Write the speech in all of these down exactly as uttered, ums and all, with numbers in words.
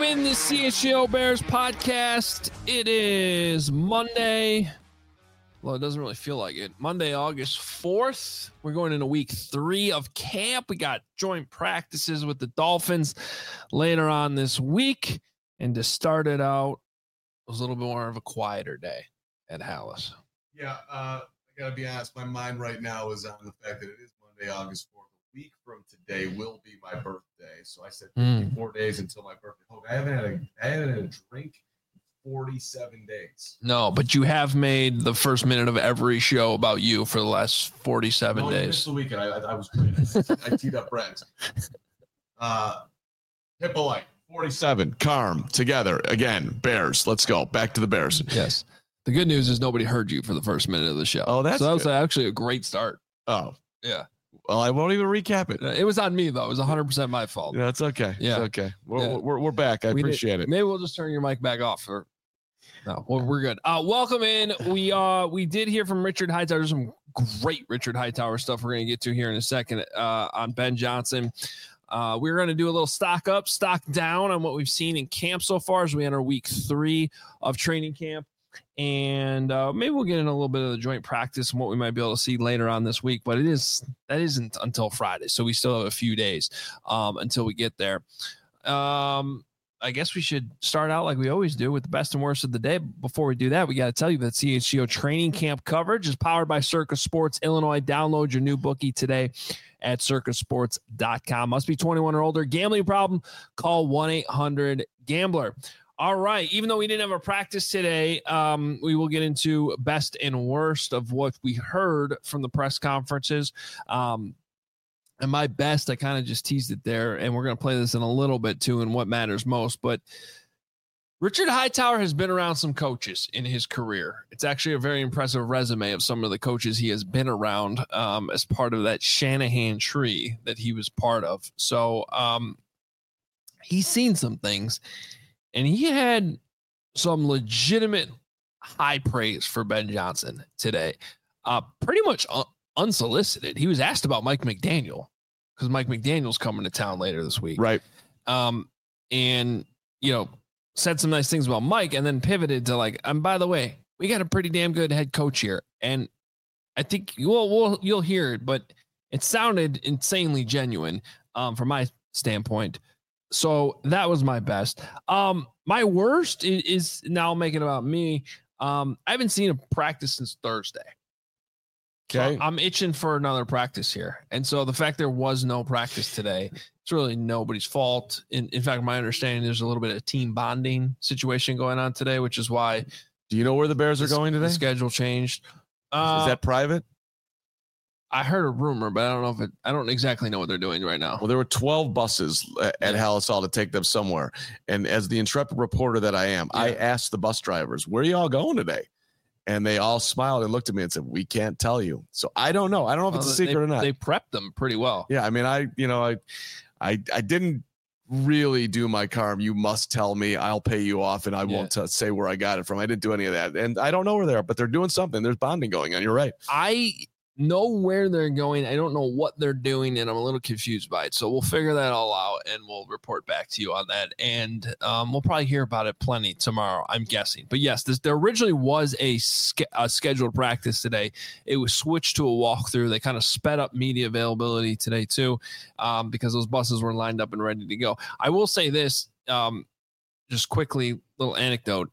in the C H G O Bears podcast. It is Monday. Well, it doesn't really feel like it. Monday, August fourth. We're going into week three of camp. We got joint practices with the Dolphins later on this week. And to start it out, it was a little bit more of a quieter day at Halas. Yeah, uh, I got to be honest. My mind right now is on the fact that it is Monday, August fourth. A week from today will be my birthday. So I said fifty-four mm. days until my birthday. Oh, I haven't had a, I haven't had a drink in forty-seven days. No, but you have made the first minute of every show about you for the last forty-seven no, days. The weekend, I, I, I was I teed up Brent. Uh, Hippolyte, forty-seven. Carm, together again. Bears. Let's go back to the Bears. Yes. The good news is nobody heard you for the first minute of the show. Oh, that's so that was good. actually a great start. Oh, yeah. Well, I won't even recap it. It was on me, though. It was one hundred percent my fault. Yeah, it's okay. Yeah. It's okay. We're, yeah. we're, we're back. I we appreciate did. it. Maybe we'll just turn your mic back off. Or no, well, we're good. Uh, welcome in. We uh we did hear from Richard Hightower. There's some great Richard Hightower stuff we're going to get to here in a second uh, on Ben Johnson. Uh, we're going to do a little stock up, stock down on what we've seen in camp so far as we enter week three of training camp. And uh, maybe we'll get in a little bit of the joint practice and what we might be able to see later on this week. But it is that isn't until Friday, so we still have a few days um, until we get there. Um, I guess we should start out like we always do with the best and worst of the day. Before we do that, we got to tell you that C H G O training camp coverage is powered by Circa Sports Illinois. Download your new bookie today at circa sports dot com. Must be twenty-one or older. Gambling problem? Call one eight hundred gambler. All right. Even though we didn't have a practice today, um, we will get into best and worst of what we heard from the press conferences. Um, and my best, I kind of just teased it there, and we're going to play this in a little bit too, and what matters most. But Richard Hightower has been around some coaches in his career. It's actually a very impressive resume of some of the coaches he has been around um, as part of that Shanahan tree that he was part of. So um, he's seen some things. And he had some legitimate high praise for Ben Johnson today, uh, pretty much un- unsolicited. He was asked about Mike McDaniel because Mike McDaniel's coming to town later this week. Right. Um, and, you know, said some nice things about Mike and then pivoted to like, and by the way, we got a pretty damn good head coach here. And I think you'll, we'll, you'll hear it, but it sounded insanely genuine um, from my standpoint. So that was my best. Um, my worst is, is now making about me. Um, I haven't seen a practice since Thursday. Okay. So I'm itching for another practice here. And so the fact there was no practice today, it's really nobody's fault. In, in fact, my understanding, there's a little bit of team bonding situation going on today, which is why. Do you know where the Bears are going today? The schedule changed. Uh, is that private? I heard a rumor, but I don't know if it, I don't exactly know what they're doing right now. Well, there were twelve buses at yeah. Halas Hall to take them somewhere. And as the intrepid reporter that I am, yeah. I asked the bus drivers, where are you all going today? And they all smiled and looked at me and said, we can't tell you. So I don't know. I don't know if well, it's a secret they, or not. They prepped them pretty well. Yeah. I mean, I, you know, I, I, I didn't really do my Carm. You must tell me, I'll pay you off and I yeah. won't t- say where I got it from. I didn't do any of that. And I don't know where they are, but they're doing something. There's bonding going on. You're right. I know where they're going. I don't know what they're doing, and I'm a little confused by it. So we'll figure that all out, and we'll report back to you on that. And um, we'll probably hear about it plenty tomorrow, I'm guessing. But yes, this, there originally was a, ske- a scheduled practice today. It was switched to a walkthrough. They kind of sped up media availability today too, um, because those buses were lined up and ready to go. I will say this, um, just quickly, little anecdote.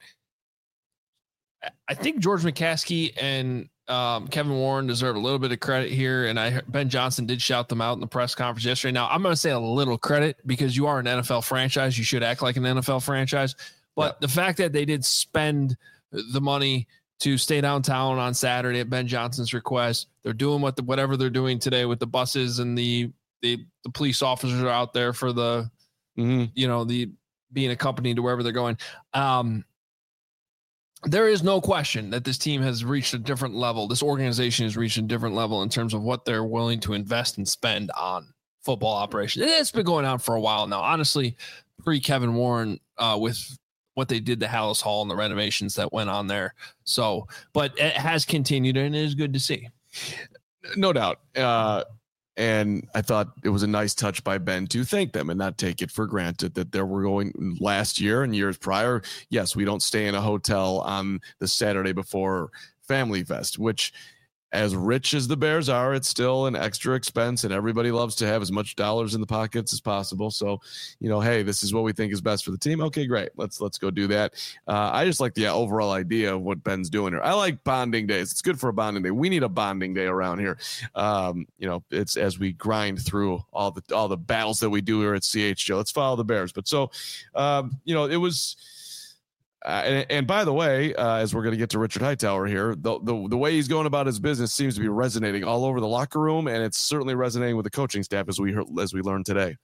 I think George McCaskey and Um, Kevin Warren deserve a little bit of credit here, and I Ben Johnson did shout them out in the press conference yesterday. Now, I'm going to say a little credit because you are an N F L franchise. You should act like an N F L franchise. But yeah. the fact that they did spend the money to stay downtown on Saturday at Ben Johnson's request, they're doing what the, whatever they're doing today with the buses and the the, the police officers are out there for the, mm-hmm. you know, the being accompanied to wherever they're going. Um, There is no question that this team has reached a different level. This organization has reached a different level in terms of what they're willing to invest and spend on football operations. It's been going on for a while now. Honestly, pre-Kevin Warren uh, with what they did to Halas Hall and the renovations that went on there. So, but it has continued, and it is good to see. No doubt. Uh, And I thought it was a nice touch by Ben to thank them and not take it for granted that there were going last year and years prior. Yes, we don't stay in a hotel on the Saturday before Family Fest, which, as rich as the Bears are, it's still an extra expense, and everybody loves to have as much dollars in the pockets as possible. So, you know, hey, this is what we think is best for the team. Okay, great. Let's let's go do that. Uh, I just like the overall idea of what Ben's doing here. I like bonding days. It's good for a bonding day. We need a bonding day around here. Um, you know, it's as we grind through all the all the battles that we do here at C H J. Let's follow the Bears. But so, um, you know, it was. Uh, and, and by the way, uh, as we're going to get to Richard Hightower here, the, the the way he's going about his business seems to be resonating all over the locker room, and it's certainly resonating with the coaching staff as we heard, as we learned today.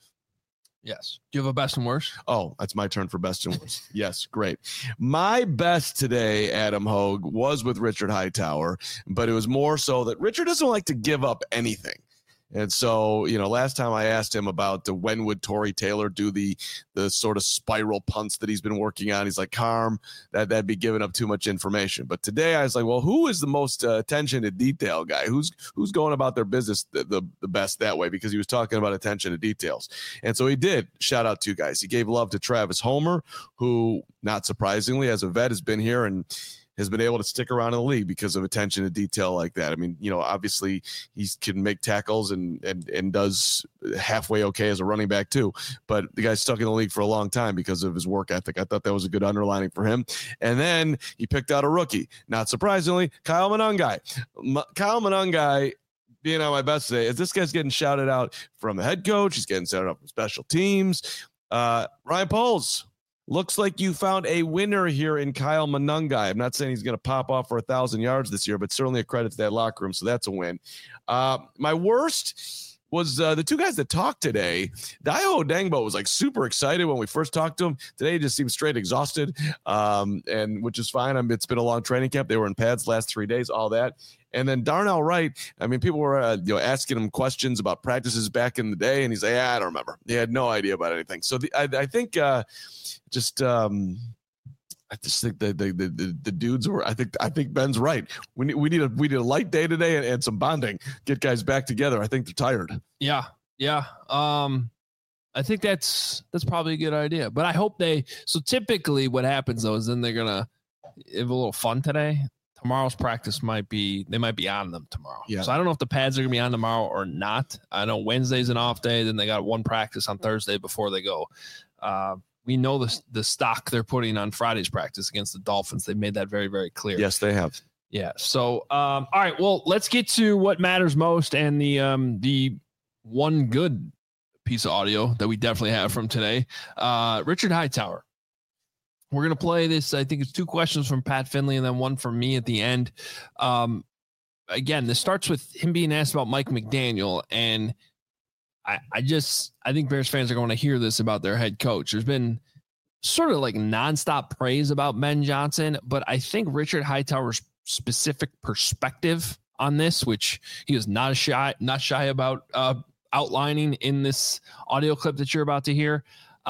Yes. Do you have a best and worst? Oh, that's my turn for best and worst. Yes, great. My best today, Adam Hogue, was with Richard Hightower, but it was more so that Richard doesn't like to give up anything. And so, you know, last time I asked him about the when would Tory Taylor do the the sort of spiral punts that he's been working on, he's like, calm, that, that'd be giving up too much information. But today I was like, well, who is the most uh, attention to detail guy? Who's who's going about their business the, the, the best that way? Because he was talking about attention to details. And so he did shout out two guys. He gave love to Travis Homer, who, not surprisingly, as a vet, has been here and has been able to stick around in the league because of attention to detail like that. I mean, you know, obviously he can make tackles and, and, and does halfway okay as a running back too, but the guy's stuck in the league for a long time because of his work ethic. I thought that was a good underlining for him. And then he picked out a rookie, not surprisingly, Kyle Monangai. M- Kyle Monangai, being on my best today, is this guy's getting shouted out from the head coach. He's getting shouted out from special teams. Uh, Ryan Poles, looks like you found a winner here in Kyle Monangai. I'm not saying he's going to pop off for a thousand yards this year, but certainly a credit to that locker room. So that's a win. Uh, my worst was uh, the two guys that talked today. Dayo Odengbo was like super excited when we first talked to him. Today he just seems straight exhausted, um, and which is fine. I mean, it's been a long training camp. They were in pads last three days, all that. And then Darnell Wright, I mean, people were uh, you know asking him questions about practices back in the day, and he's like, yeah, I don't remember. He had no idea about anything. So the, I, I think uh, just um, I just think the the, the the dudes were. I think I think Ben's right. We need we need a we need a light day today and, and some bonding. Get guys back together. I think they're tired. Yeah, yeah. Um, I think that's that's probably a good idea. But I hope they. So typically, what happens though is then they're gonna have a little fun today. Tomorrow's practice might be, they might be on them tomorrow. Yeah. So I don't know if the pads are going to be on tomorrow or not. I know Wednesday's an off day. Then they got one practice on Thursday before they go. Uh, we know the, the stock they're putting on Friday's practice against the Dolphins. They made that very, very clear. Yes, they have. Yeah. So, um, all right, well, let's get to what matters most and the, um, the one good piece of audio that we definitely have from today. Uh, Richard Hightower. We're going to play this. I think it's two questions from Pat Finley and then one from me at the end. Um, again, this starts with him being asked about Mike McDaniel. And I, I just, I think Bears fans are going to hear this about their head coach. There's been sort of like nonstop praise about Ben Johnson, but I think Richard Hightower's specific perspective on this, which he was not shy, not shy about uh, outlining in this audio clip that you're about to hear,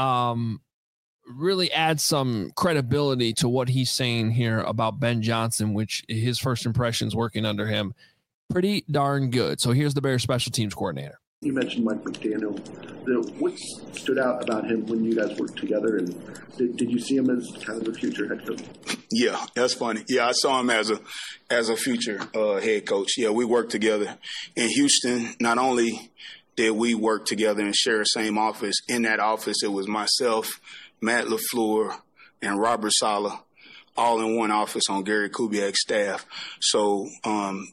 um, really adds some credibility to what he's saying here about Ben Johnson, which his first impressions working under him, pretty darn good. So here's the Bears special teams coordinator. You mentioned Mike McDaniel. The, what stood out about him when you guys worked together, and did, did you see him as kind of the future head coach? Yeah, that's funny. Yeah, I saw him as a as a future uh, head coach. Yeah, we worked together in Houston. Not only did we work together and share the same office, in that office it was myself, Matt LaFleur, and Robert Saleh, all in one office on Gary Kubiak's staff. So um,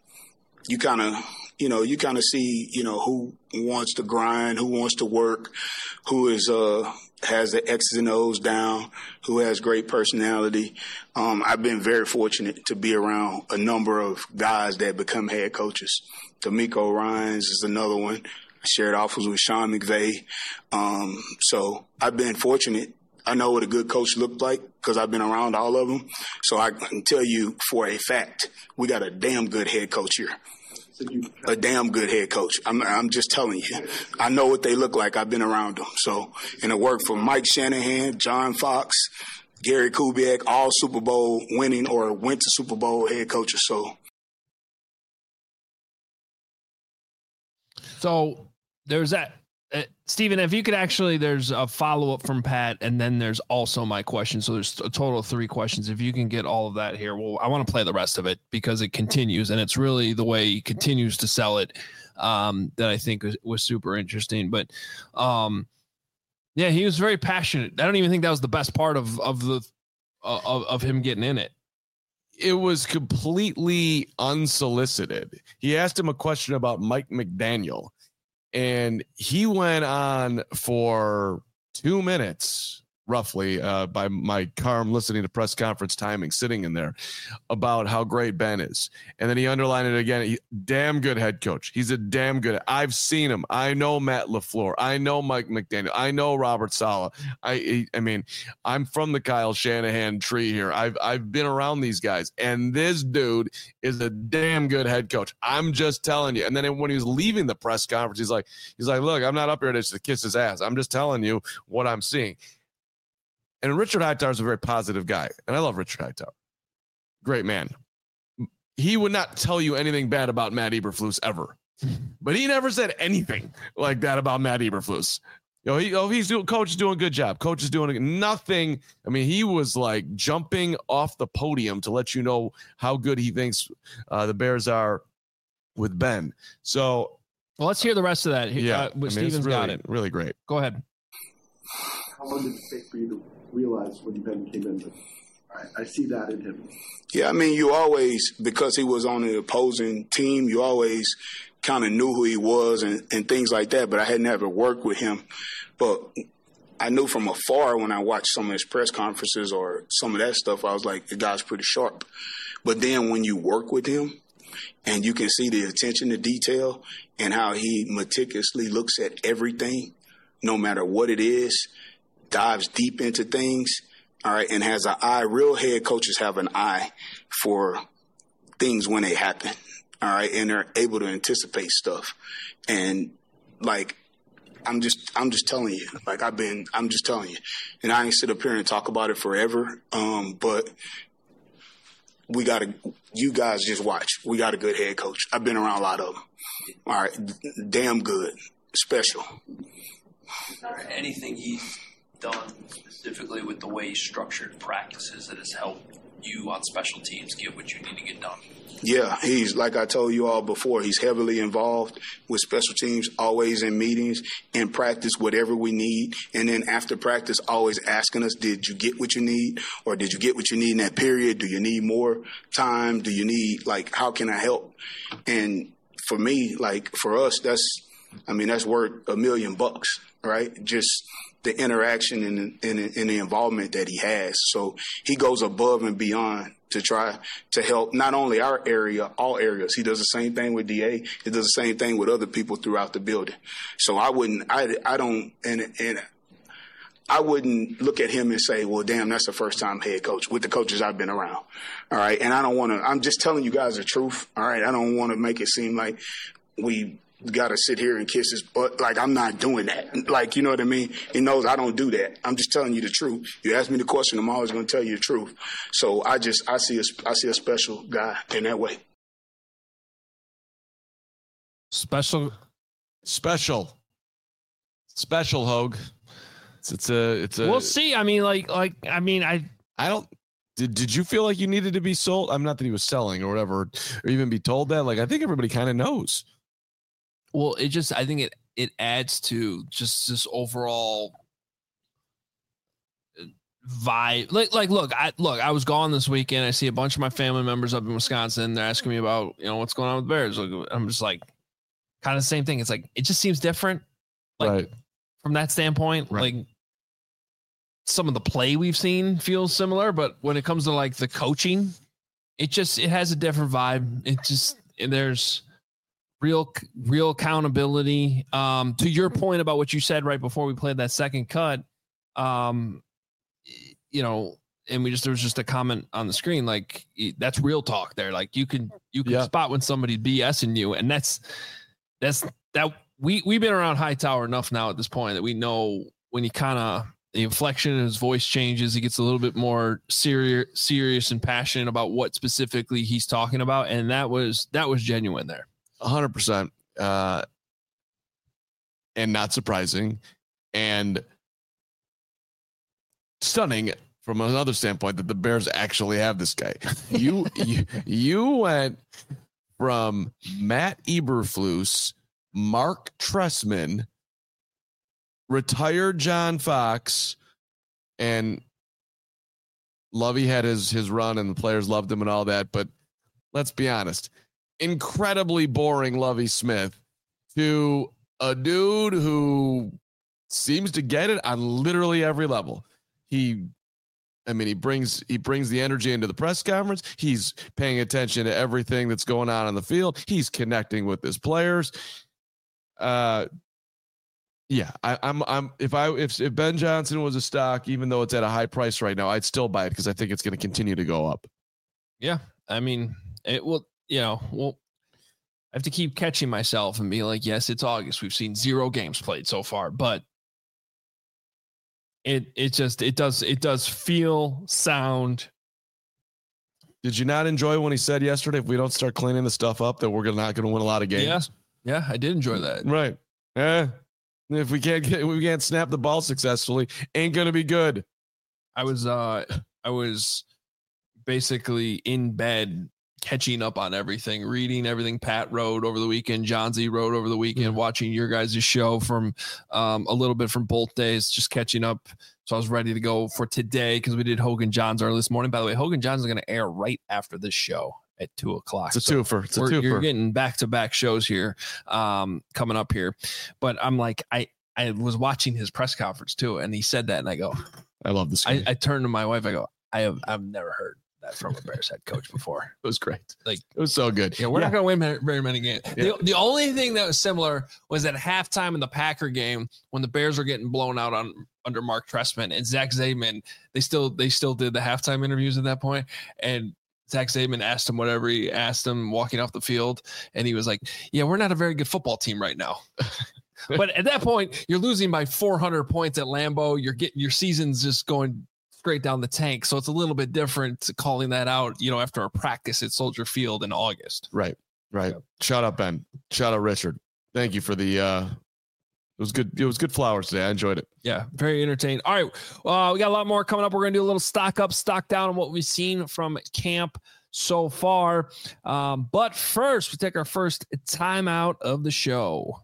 you kind of, you know, you kind of see, you know, who wants to grind, who wants to work, who is uh, has the X's and O's down, who has great personality. Um, I've been very fortunate to be around a number of guys that become head coaches. D'Amico Ryans is another one. I shared office with Sean McVay. Um, so I've been fortunate. I know what a good coach looked like because I've been around all of them. So I can tell you for a fact, we got a damn good head coach here. A damn good head coach. I'm, I'm just telling you. I know what they look like. I've been around them. So, and it worked for Mike Shanahan, John Fox, Gary Kubiak, all Super Bowl winning or went to Super Bowl head coaches. So, So there's that. Uh, Steven, if you could actually, there's a follow-up from Pat, and then there's also my question. So there's a total of three questions. If you can get all of that here, well, I want to play the rest of it because it continues, and it's really the way he continues to sell it um, that I think was, was super interesting. But um, yeah, he was very passionate. I don't even think that was the best part of of the uh, of, of him getting in it. It was completely unsolicited. He asked him a question about Mike McDaniel. And he went on for two minutes, roughly, uh, by my car. I'm listening to press conference timing, sitting in there, about how great Ben is. And then he underlined it again. He, damn good head coach. He's a damn good. I've seen him. I know Matt LaFleur. I know Mike McDaniel. I know Robert Saleh. I, I mean, I'm from the Kyle Shanahan tree here. I've, I've been around these guys, and this dude is a damn good head coach. I'm just telling you. And then when he was leaving the press conference, he's like, he's like, look, I'm not up here to kiss his ass. I'm just telling you what I'm seeing. And Richard Hightower is a very positive guy, and I love Richard Hightower. Great man. He would not tell you anything bad about Matt Eberflus ever, but he never said anything like that about Matt Eberflus. You know, he, oh, he's doing. Coach is doing a good job. Coach is doing nothing. I mean, he was like jumping off the podium to let you know how good he thinks uh, the Bears are with Ben. So, well, let's hear the rest of that. Yeah, uh, I mean, Steven's really, got it. Really great. Go ahead. How long did it take for you to realize when Ben came in that I, I see that in him? Yeah, I mean, you always, because he was on the opposing team, you always kind of knew who he was and, and things like that, but I had never worked with him. But I knew from afar when I watched some of his press conferences or some of that stuff, I was like, the guy's pretty sharp. But then when you work with him and you can see the attention to detail and how he meticulously looks at everything, no matter what it is, dives deep into things, all right, and has an eye. Real head coaches have an eye for things when they happen, all right, and they're able to anticipate stuff. And like, I'm just, I'm just telling you, like I've been, I'm just telling you, and I ain't sit up here and talk about it forever, um, but we got to, you guys just watch. We got a good head coach. I've been around a lot of them. All right, damn good, special. Anything he's done specifically with the way he structured practices that has helped you on special teams get what you need to get done? Yeah, he's, like I told you all before, he's heavily involved with special teams, always in meetings, in practice, whatever we need. And then after practice, always asking us, did you get what you need? Or did you get what you need in that period? Do you need more time? Do you need, like, how can I help? And for me, like, for us, that's, I mean, that's worth a million bucks, right? Just the interaction and, and, and the involvement that he has. So he goes above and beyond to try to help not only our area, all areas. He does the same thing with D A. He does the same thing with other people throughout the building. So I wouldn't, I, I don't, and, and I wouldn't look at him and say, well, damn, that's the first time head coach with the coaches I've been around. All right. And I don't want to, I'm just telling you guys the truth. All right. I don't want to make it seem like we got to sit here and kiss his butt. Like, I'm not doing that. Like, you know what I mean? He knows I don't do that. I'm just telling you the truth. You ask me the question, I'm always going to tell you the truth. So I just, I see a, I see a special guy in that way. Special, special, special Hogue. It's, it's a, it's a, we'll see. I mean, like, like, I mean, I, I don't, Did did you feel like you needed to be sold? I'm not that he was selling or whatever, or even be told that. Like, I think everybody kind of knows. Well, it just, I think it, it adds to just this overall vibe. Like, like, look, I look, I was gone this weekend. I see a bunch of my family members up in Wisconsin. They're asking me about, you know, what's going on with the Bears. I'm just like, kind of the same thing. It's like, it just seems different. Like, right. From that standpoint, right. Like, some of the play we've seen feels similar, but when it comes to like the coaching, it just, it has a different vibe. It just, there's real, real accountability. Um, to your point about what you said right before we played that second cut, um, you know, and we just, there was just a comment on the screen, like that's real talk there. Like you can, you can yeah. spot when somebody's BSing you. And that's, that's that we, we've been around Hightower enough now at this point that we know when he kind of, the inflection in his voice changes. He gets a little bit more serious, serious and passionate about what specifically he's talking about. And that was, that was genuine there. A hundred percent. Uh, and not surprising and stunning from another standpoint that the Bears actually have this guy. You you, you went from Matt Eberflus, Mark Trestman, retired John Fox, and Lovey had his his run and the players loved him and all that, but let's be honest, incredibly boring Lovey Smith to a dude who seems to get it on literally every level. He I mean, he brings he brings the energy into the press conference. He's paying attention to everything that's going on on the field. He's connecting with his players. Uh, yeah, I, I'm I'm if I if, if Ben Johnson was a stock, even though it's at a high price right now, I'd still buy it because I think it's going to continue to go up. Yeah, I mean, it will. You know, well, I have to keep catching myself and being like, yes, it's August. We've seen zero games played so far, but. It it just it does it does feel sound. Did you not enjoy when he said yesterday, if we don't start cleaning the stuff up, that we're gonna, not going to win a lot of games? Yeah, yeah, I did enjoy that. Right. Yeah. If we can't get we can't snap the ball successfully, ain't going to be good. I was uh I was basically in bed catching up on everything, reading everything Pat wrote over the weekend, John Z wrote over the weekend, mm-hmm. watching your guys' show from um, a little bit from both days, just catching up. So I was ready to go for today because we did Hogan Johns early this morning. By the way, Hogan Johns is going to air right after this show at two o'clock. It's a so twofer. It's a twofer. You're getting back-to-back shows here um, coming up here. But I'm like, I, I was watching his press conference too, and he said that, and I go, I love this. I, I turned to my wife. I go, I have I've never heard that from a Bears head coach before. It was great. Like it was so good. Yeah, we're yeah. not going to win very many games. Yeah. The, the only thing that was similar was at halftime in the Packer game when the Bears were getting blown out on under Mark Trestman and Zach Zaidman. They still they still did the halftime interviews at that point, and Zach Zaidman asked him whatever he asked him walking off the field, and he was like, "Yeah, we're not a very good football team right now." But at that point, you're losing by four hundred points at Lambeau. You're getting your season's just going straight down the tank. So it's a little bit different calling that out, you know, after a practice at Soldier Field in August. Right. Right. Yeah. Shout out, Ben. Shout out, Richard. Thank you for the, uh, it was good. It was good flowers today. I enjoyed it. Yeah. Very entertaining. All right. Uh, we got a lot more coming up. We're going to do a little stock up, stock down on what we've seen from camp so far. Um, but first we take our first timeout of the show.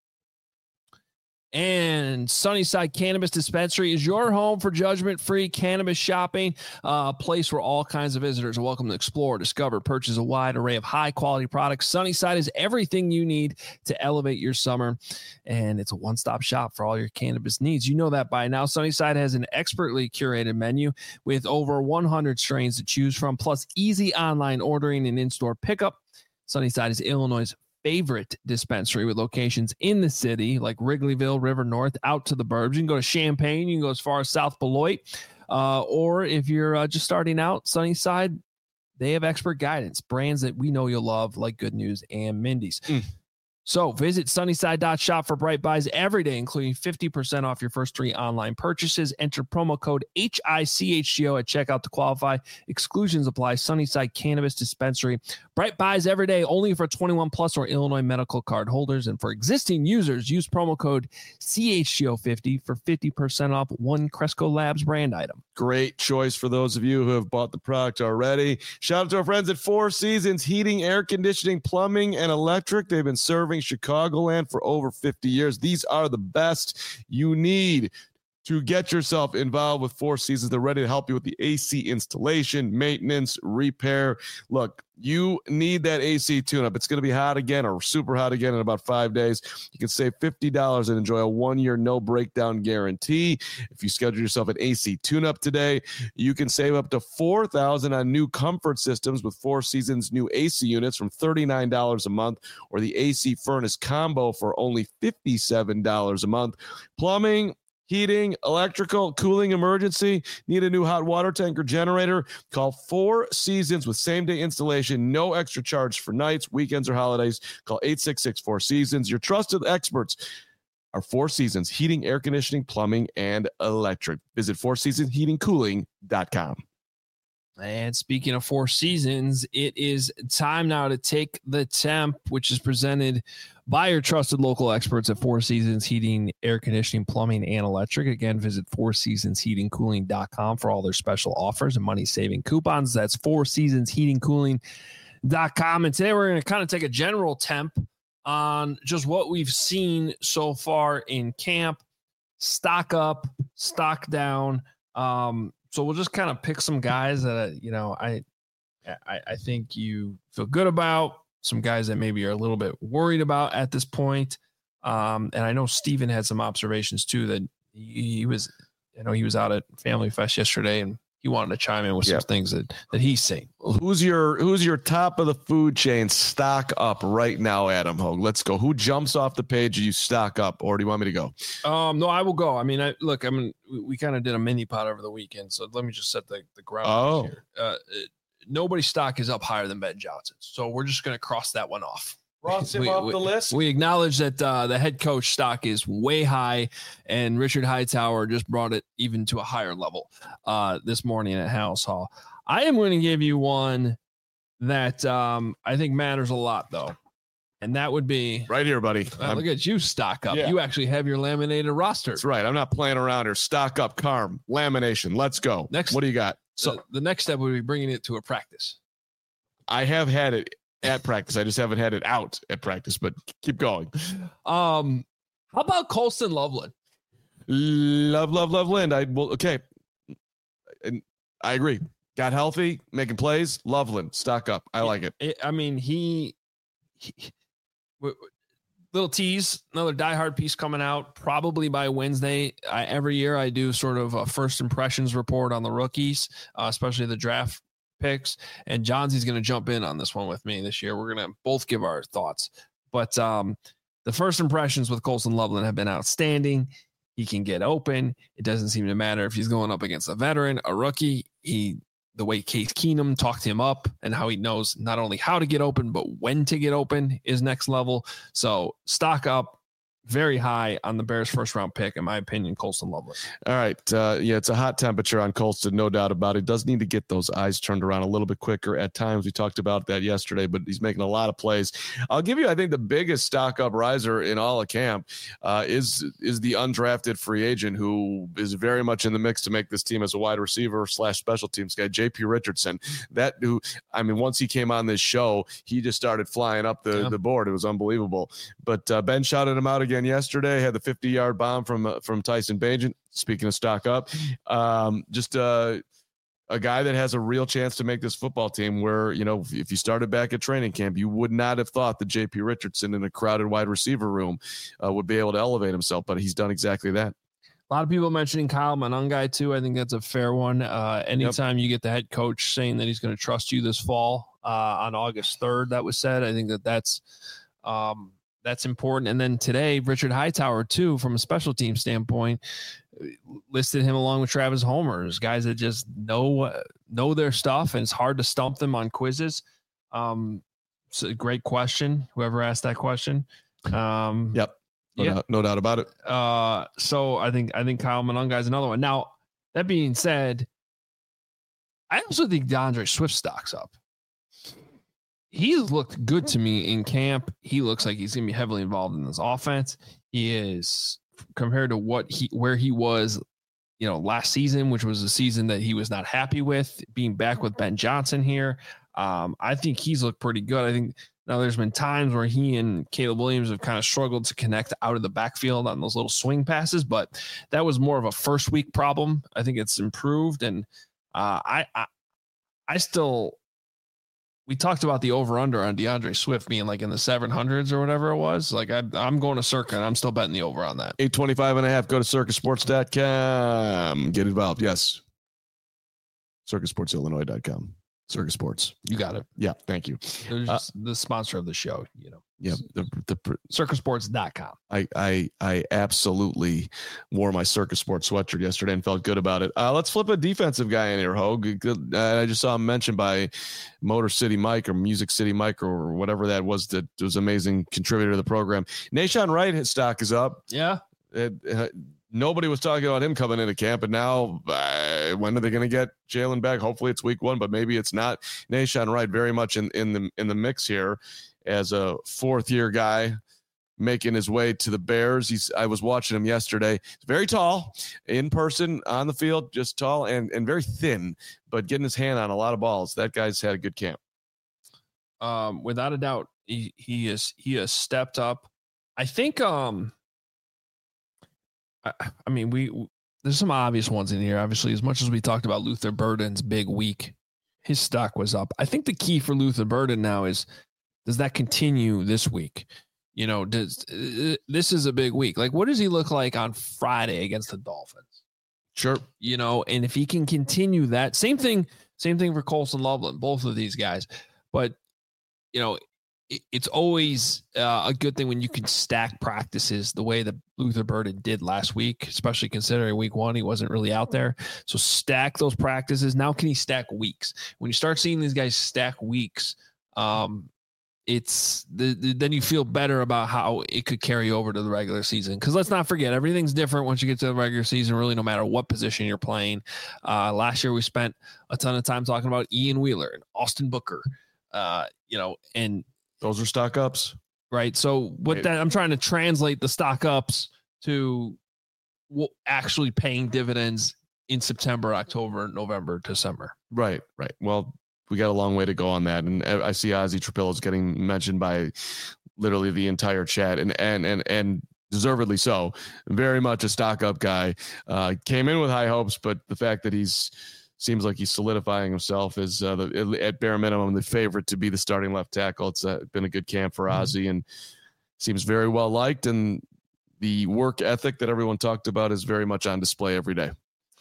And Sunnyside Cannabis Dispensary is your home for judgment-free cannabis shopping, a place where all kinds of visitors are welcome to explore, discover, purchase a wide array of high-quality products. Sunnyside is everything you need to elevate your summer, and it's a one-stop shop for all your cannabis needs. You know that by now. Sunnyside has an expertly curated menu with over one hundred strains to choose from, plus easy online ordering and in-store pickup. Sunnyside is Illinois' favorite dispensary with locations in the city like Wrigleyville, River North, out to the burbs. You can go to Champaign. You can go as far as South Beloit. Uh, or if you're uh, just starting out, Sunnyside, they have expert guidance, brands that we know you'll love like Good News and Mindy's. Mm. So visit sunnyside dot shop for Bright Buys every day, including fifty percent off your first three online purchases. Enter promo code H I C H G O at checkout to qualify. Exclusions apply. Sunnyside Cannabis Dispensary. Bright Buys every day, only for twenty-one plus or Illinois medical card holders. And for existing users, use promo code C H G O fifty for fifty percent off one Cresco Labs brand item. Great choice for those of you who have bought the product already. Shout out to our friends at Four Seasons Heating, Air Conditioning, Plumbing, and Electric. They've been serving Chicagoland for over fifty years. These are the best you need to get yourself involved with Four Seasons. They're ready to help you with the A C installation, maintenance, repair. Look, you need that A C tune-up. It's going to be hot again or super hot again in about five days. You can save fifty dollars and enjoy a one-year no-breakdown guarantee. If you schedule yourself an A C tune-up today, you can save up to four thousand dollars on new comfort systems with Four Seasons new A C units from thirty-nine dollars a month, or the A C furnace combo for only fifty-seven dollars a month. Plumbing, heating, electrical, cooling emergency, need a new hot water tank or generator? Call Four Seasons with same-day installation, no extra charge for nights, weekends, or holidays. Call eight six six, four seasons. Your trusted experts are Four Seasons Heating, Air Conditioning, Plumbing, and Electric. Visit four seasons heating cooling dot com. And speaking of Four Seasons, it is time now to take the temp, which is presented by your trusted local experts at Four Seasons Heating, Air Conditioning, Plumbing, and Electric. Again, visit four seasons heating cooling dot com for all their special offers and money-saving coupons. That's four seasons heating cooling dot com. And today we're going to kind of take a general temp on just what we've seen so far in camp. Stock up, stock down. Um, so we'll just kind of pick some guys that, you know, I, I, I think you feel good about, some guys that maybe are a little bit worried about at this point. Um, and I know Steven had some observations too, that he, he was, you know, he was out at Family Fest yesterday and he wanted to chime in with some yeah. things that, that he's seen. Who's your who's your top of the food chain stock up right now, Adam Hogue? Let's go. Who jumps off the page? You stock up, or do you want me to go? Um, no, I will go. I mean, I look. I mean, we, we kind of did a mini pot over the weekend, so let me just set the the ground. Oh, here. Uh, it, nobody's stock is up higher than Ben Johnson, so we're just going to cross that one off. Cross him we, off we, the list. We acknowledge that uh, the head coach stock is way high, and Richard Hightower just brought it even to a higher level uh, this morning at House Hall. I am going to give you one that um, I think matters a lot, though, and that would be right here, buddy. Uh, look at you, stock up. Yeah. You actually have your laminated roster. That's right. I'm not playing around here. Stock up, Carm, lamination. Let's go. Next, what do you got? So the, the next step would be bringing it to a practice. I have had it at practice. I just haven't had it out at practice, but keep going. Um, how about Colston Loveland? Love, love, love Lind. I will. Okay. And I agree. Got healthy, making plays. Loveland, stock up. I like it. it I mean, he, he w- w- little tease, another diehard piece coming out probably by Wednesday. I, every year I do sort of a first impressions report on the rookies, uh, especially the draft picks, and Johnsy's going to jump in on this one with me this year. We're going to both give our thoughts, but um, the first impressions with Colston Loveland have been outstanding. He can get open. It doesn't seem to matter if he's going up against a veteran, a rookie. He, the way Case Keenum talked him up and how he knows not only how to get open, but when to get open is next level. So stock up. Very high on the Bears' first round pick, in my opinion, Colston Loveland. All right. Uh, yeah, it's a hot temperature on Colston, no doubt about it. Does need to get those eyes turned around a little bit quicker at times. We talked about that yesterday, but he's making a lot of plays. I'll give you, I think, the biggest stock up riser in all of camp uh, is is the undrafted free agent who is very much in the mix to make this team as a wide receiver slash special teams guy, J P Richardson. That who, I mean, once he came on this show, he just started flying up the, yeah. the board. It was unbelievable. But uh, Ben shouted him out again yesterday, had the fifty-yard bomb from uh, from Tyson Bagent. Speaking of stock up, um, just uh, a guy that has a real chance to make this football team where, you know, if you started back at training camp, you would not have thought that J P Richardson in a crowded wide receiver room uh, would be able to elevate himself, but he's done exactly that. A lot of people mentioning Kyle Monangai too. I think that's a fair one. Uh, anytime yep. you get the head coach saying that he's going to trust you this fall uh, on August third, that was said. I think that that's um, – that's important. And then today, Richard Hightower, too, from a special team standpoint, listed him along with Travis Homer as guys that just know uh, know their stuff, and it's hard to stump them on quizzes. Um, it's a great question, whoever asked that question. Um, yep. No, yeah. doubt, no doubt about it. Uh, so I think I think Kyle Monangai is another one. Now, that being said, I also think DeAndre Swift stocks up. He's looked good to me in camp. He looks like he's going to be heavily involved in this offense. He is, compared to what he where he was, you know, last season, which was a season that he was not happy with, being back with Ben Johnson here. Um, I think he's looked pretty good. I think now there's been times where he and Caleb Williams have kind of struggled to connect out of the backfield on those little swing passes, but that was more of a first week problem. I think it's improved, and uh, I, I, I still. We talked about the over-under on DeAndre Swift being like in the seven hundreds or whatever it was. Like I, I'm going to Circa, and I'm still betting the over on that. eight twenty-five and a half. Go to circa sports dot com. Get involved. Yes. circa sports illinois dot com. Circa Sports. You got it. Yeah. Thank you. They're just uh, the sponsor of the show, you know. Yeah. The, the, circa sports dot com. I, I, I absolutely wore my Circa Sports sweatshirt yesterday and felt good about it. Uh, let's flip a defensive guy in here, Hogue. Uh, I just saw him mentioned by Motor City Mike or Music City Mike or whatever that was that was amazing contributor to the program. Nahshon Wright, his stock is up. Yeah. It, uh, nobody was talking about him coming into camp, and now uh, when are they going to get Jalen back? Hopefully it's week one, but maybe it's not. Nahshon Wright very much in, in the in the mix here as a fourth year guy making his way to the Bears. He's I was watching him yesterday. He's very tall in person, on the field, just tall and, and very thin, but getting his hand on a lot of balls. That guy's had a good camp. Um, without a doubt, he he is he has stepped up. I think um I, I mean we there's some obvious ones in here. Obviously, as much as we talked about Luther Burden's big week, his stock was up. I think the key for Luther Burden now is, does that continue this week? You know, does uh, this is a big week. Like, what does he look like on Friday against the Dolphins? Sure. You know, and if he can continue that, same thing, same thing for Colson Loveland, both of these guys. But, you know, it, it's always uh, a good thing when you can stack practices the way that Luther Burden did last week, especially considering week one, he wasn't really out there. So stack those practices. Now, can he stack weeks? When you start seeing these guys stack weeks, um, it's the, the then you feel better about how it could carry over to the regular season. Because let's not forget, everything's different once you get to the regular season, really, no matter what position you're playing. Uh, last year, we spent a ton of time talking about Ian Wheeler and Austin Booker, uh, you know, and those are stock ups. Right. So what that I'm trying to translate the stock ups to what actually paying dividends in September, October, November, December. Right. Right. Well, we got a long way to go on that. And I see Ozzy Trapillo's getting mentioned by literally the entire chat, and, and, and, and deservedly so. Very much a stock up guy. Uh, came in with high hopes, but the fact that he's seems like he's solidifying himself as uh, the, at bare minimum, the favorite to be the starting left tackle. It's uh, been a good camp for Ozzy, mm-hmm. and seems very well liked. And the work ethic that everyone talked about is very much on display every day.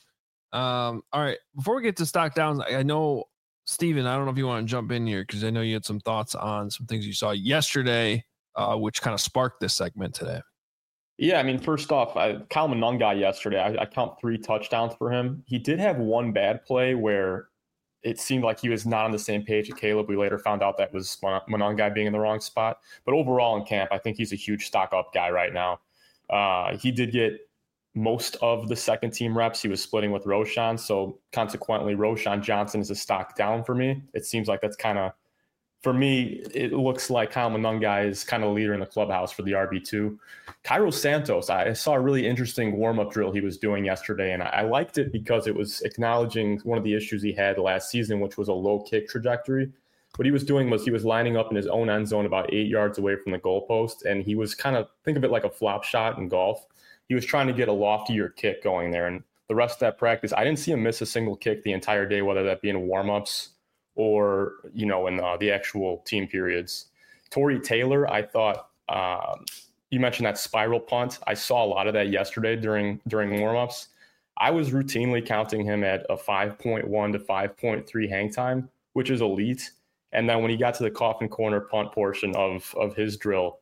Um, all right. Before we get to stock downs, I know, Steven, I don't know if you want to jump in here because I know you had some thoughts on some things you saw yesterday, uh, which kind of sparked this segment today. Yeah, I mean, first off, I, Kyle Monangai yesterday, I, I count three touchdowns for him. He did have one bad play where it seemed like he was not on the same page with Caleb. We later found out that was Monangai being in the wrong spot. But overall in camp, I think he's a huge stock up guy right now. Uh, he did get most of the second team reps. He was splitting with Roschon. So consequently, Roschon Johnson is a stock down for me. It seems like that's kind of, for me, it looks like Kyle Monangai is kind of a leader in the clubhouse for the R B two. Cairo Santos, I saw a really interesting warm-up drill he was doing yesterday, and I liked it because it was acknowledging one of the issues he had last season, which was a low kick trajectory. What he was doing was he was lining up in his own end zone about eight yards away from the goalpost, and he was kind of, think of it like a flop shot in golf. He was trying to get a loftier kick going there, and the rest of that practice, I didn't see him miss a single kick the entire day, whether that be in warm-ups or, you know, in uh, the actual team periods. Torrey Taylor, I thought, um, you mentioned that spiral punt. I saw a lot of that yesterday during during warmups. I was routinely counting him at a five point one to five point three hang time, which is elite. And then when he got to the coffin corner punt portion of of his drill,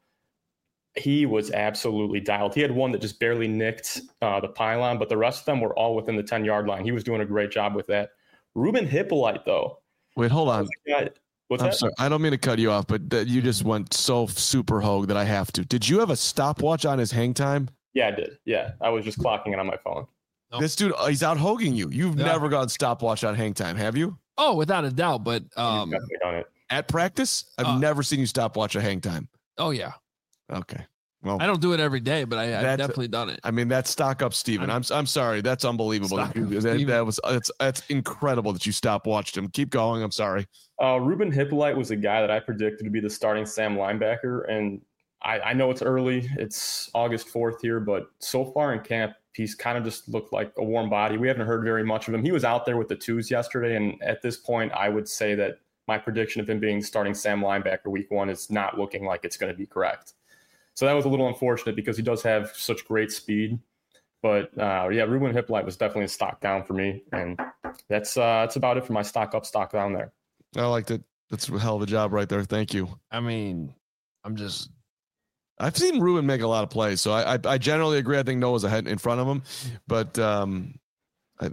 he was absolutely dialed. He had one that just barely nicked uh, the pylon, but the rest of them were all within the ten-yard line. He was doing a great job with that. Ruben Hippolyte, though. Wait, hold on. What's I'm that? sorry. I don't mean to cut you off, but th- you just went so super hogue that I have to. Did you have a stopwatch on his hang time? Yeah, I did. Yeah, I was just clocking it on my phone. Nope. This dude, he's out hogging you. You've Yeah. never gone stopwatch on hang time, have you? Oh, without a doubt. But um, He's definitely done it. At practice? I've Uh, never seen you stopwatch a hang time. oh yeah, Okay. Well, I don't do it every day, but I, I've That's- definitely done it. I mean, that's stock up, Steven. I'm I'm sorry. That's unbelievable. Stock That, up, that, Steven. that was that's that's incredible that you stopwatched him. Keep going. I'm sorry. Uh, Ruben Hippolyte was a guy that I predicted to be the starting Sam linebacker, and I, I know it's early. It's August fourth here, but so far in camp, he's kind of just looked like a warm body. We haven't heard very much of him. He was out there with the twos yesterday, and at this point, I would say that my prediction of him being starting Sam linebacker week one is not looking like it's going to be correct. So that was a little unfortunate because he does have such great speed. But uh, yeah, Ruben Hippolyte was definitely a stock down for me, and that's uh, that's about it for my stock up, stock down there. I liked it. That's a hell of a job right there. Thank you. I mean, I'm just I've seen Ruben make a lot of plays, so I I, I generally agree. I think Noah's ahead in front of him, but um, I,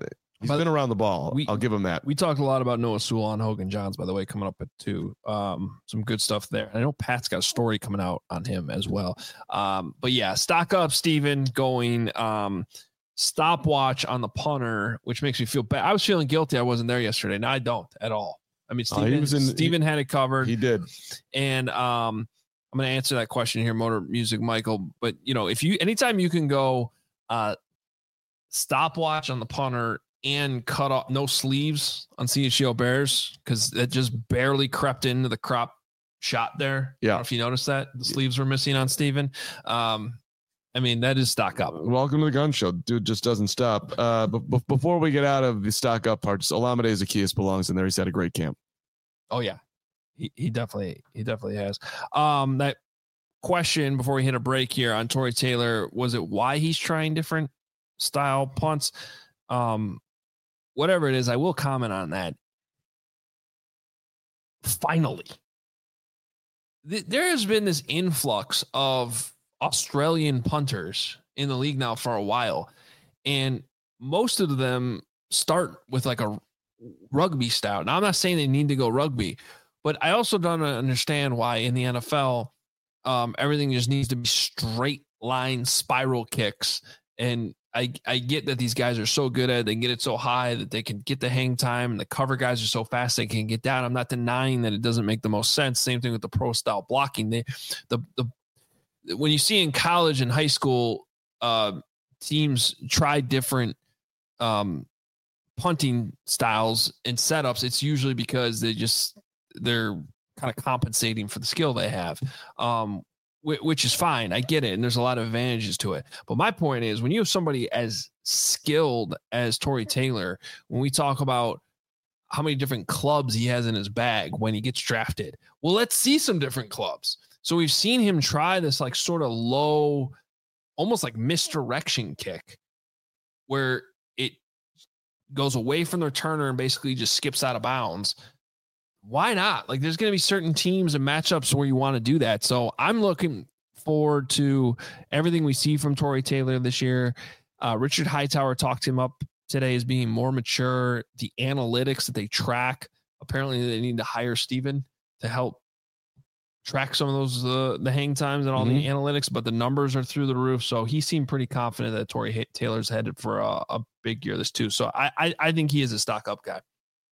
He's but been around the ball. We, I'll give him that. We talked a lot about Noah Sewell on Hogan Johns, by the way, coming up at two. Um, some good stuff there. I know Pat's got a story coming out on him as well. Um, but yeah, stock up, Steven, going um, stopwatch on the punter, which makes me feel bad. I was feeling guilty. I wasn't there yesterday. Now I don't at all. I mean, Steven, oh, he was in, Steven he, had it covered. He did. And um, I'm going to answer that question here, Motor Music Michael. But, you know, if you anytime you can go uh, stopwatch on the punter and cut off no sleeves on C H G O Bears, because that just barely crept into the crop shot there. Yeah. I don't know if you noticed that the sleeves were missing on Steven. Um, I mean, that is stock up. Welcome to the gun show. Dude just doesn't stop. Uh, but, but before we get out of the stock up part, Olamide Zaccheaus belongs in there. He's had a great camp. Oh yeah. He, he definitely, he definitely has. Um, that question before we hit a break here on Tory Taylor, was it why he's trying different style punts? Um, whatever it is, I will comment on that. Finally, th- there has been this influx of Australian punters in the league now for a while, and most of them start with like a rugby style. Now, I'm not saying they need to go rugby, but I also don't understand why in the N F L, um, everything just needs to be straight line spiral kicks. And I, I get that these guys are so good at it. They can get it so high that they can get the hang time, and the cover guys are so fast they can get down. I'm not denying that it doesn't make the most sense. Same thing with the pro style blocking. They, the, the, when you see in college and high school, uh, teams try different, um, punting styles and setups, it's usually because they just, they're kind of compensating for the skill they have. Um, which is fine. I get it. And there's a lot of advantages to it. But my point is, when you have somebody as skilled as Tory Taylor, when we talk about how many different clubs he has in his bag when he gets drafted, well, let's see some different clubs. So we've seen him try this like sort of low, almost like misdirection kick where it goes away from the returner and basically just skips out of bounds. Why not? Like, there's going to be certain teams and matchups where you want to do that. So I'm looking forward to everything we see from Tory Taylor this year. Uh, Richard Hightower talked him up today as being more mature. The analytics that they track, apparently they need to hire Steven to help track some of those, uh, the hang times and all mm-hmm. the analytics, but the numbers are through the roof. So he seemed pretty confident that Tory Taylor's headed for a, a big year this too. So I, I, I think he is a stock up guy.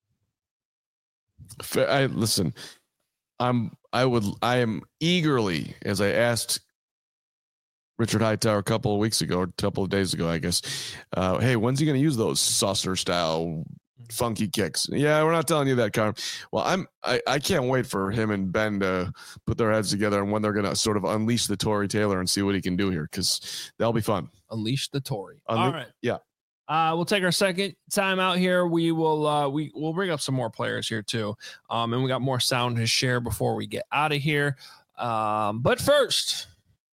I listen, I'm, I would, I am eagerly, as I asked Richard Hightower a couple of weeks ago, or a couple of days ago, I guess, uh, hey, when's he going to use those saucer style funky kicks? Yeah, we're not telling you that, Carm. Well, I'm, I, I can't wait for him and Ben to put their heads together and when they're going to sort of unleash the Tory Taylor and see what he can do here, because that'll be fun. Unleash the Tory. Unle- All right. Yeah. Uh, we'll take our second time out here. We will uh, we we'll bring up some more players here too, um, and we got more sound to share before we get out of here. Um, but first,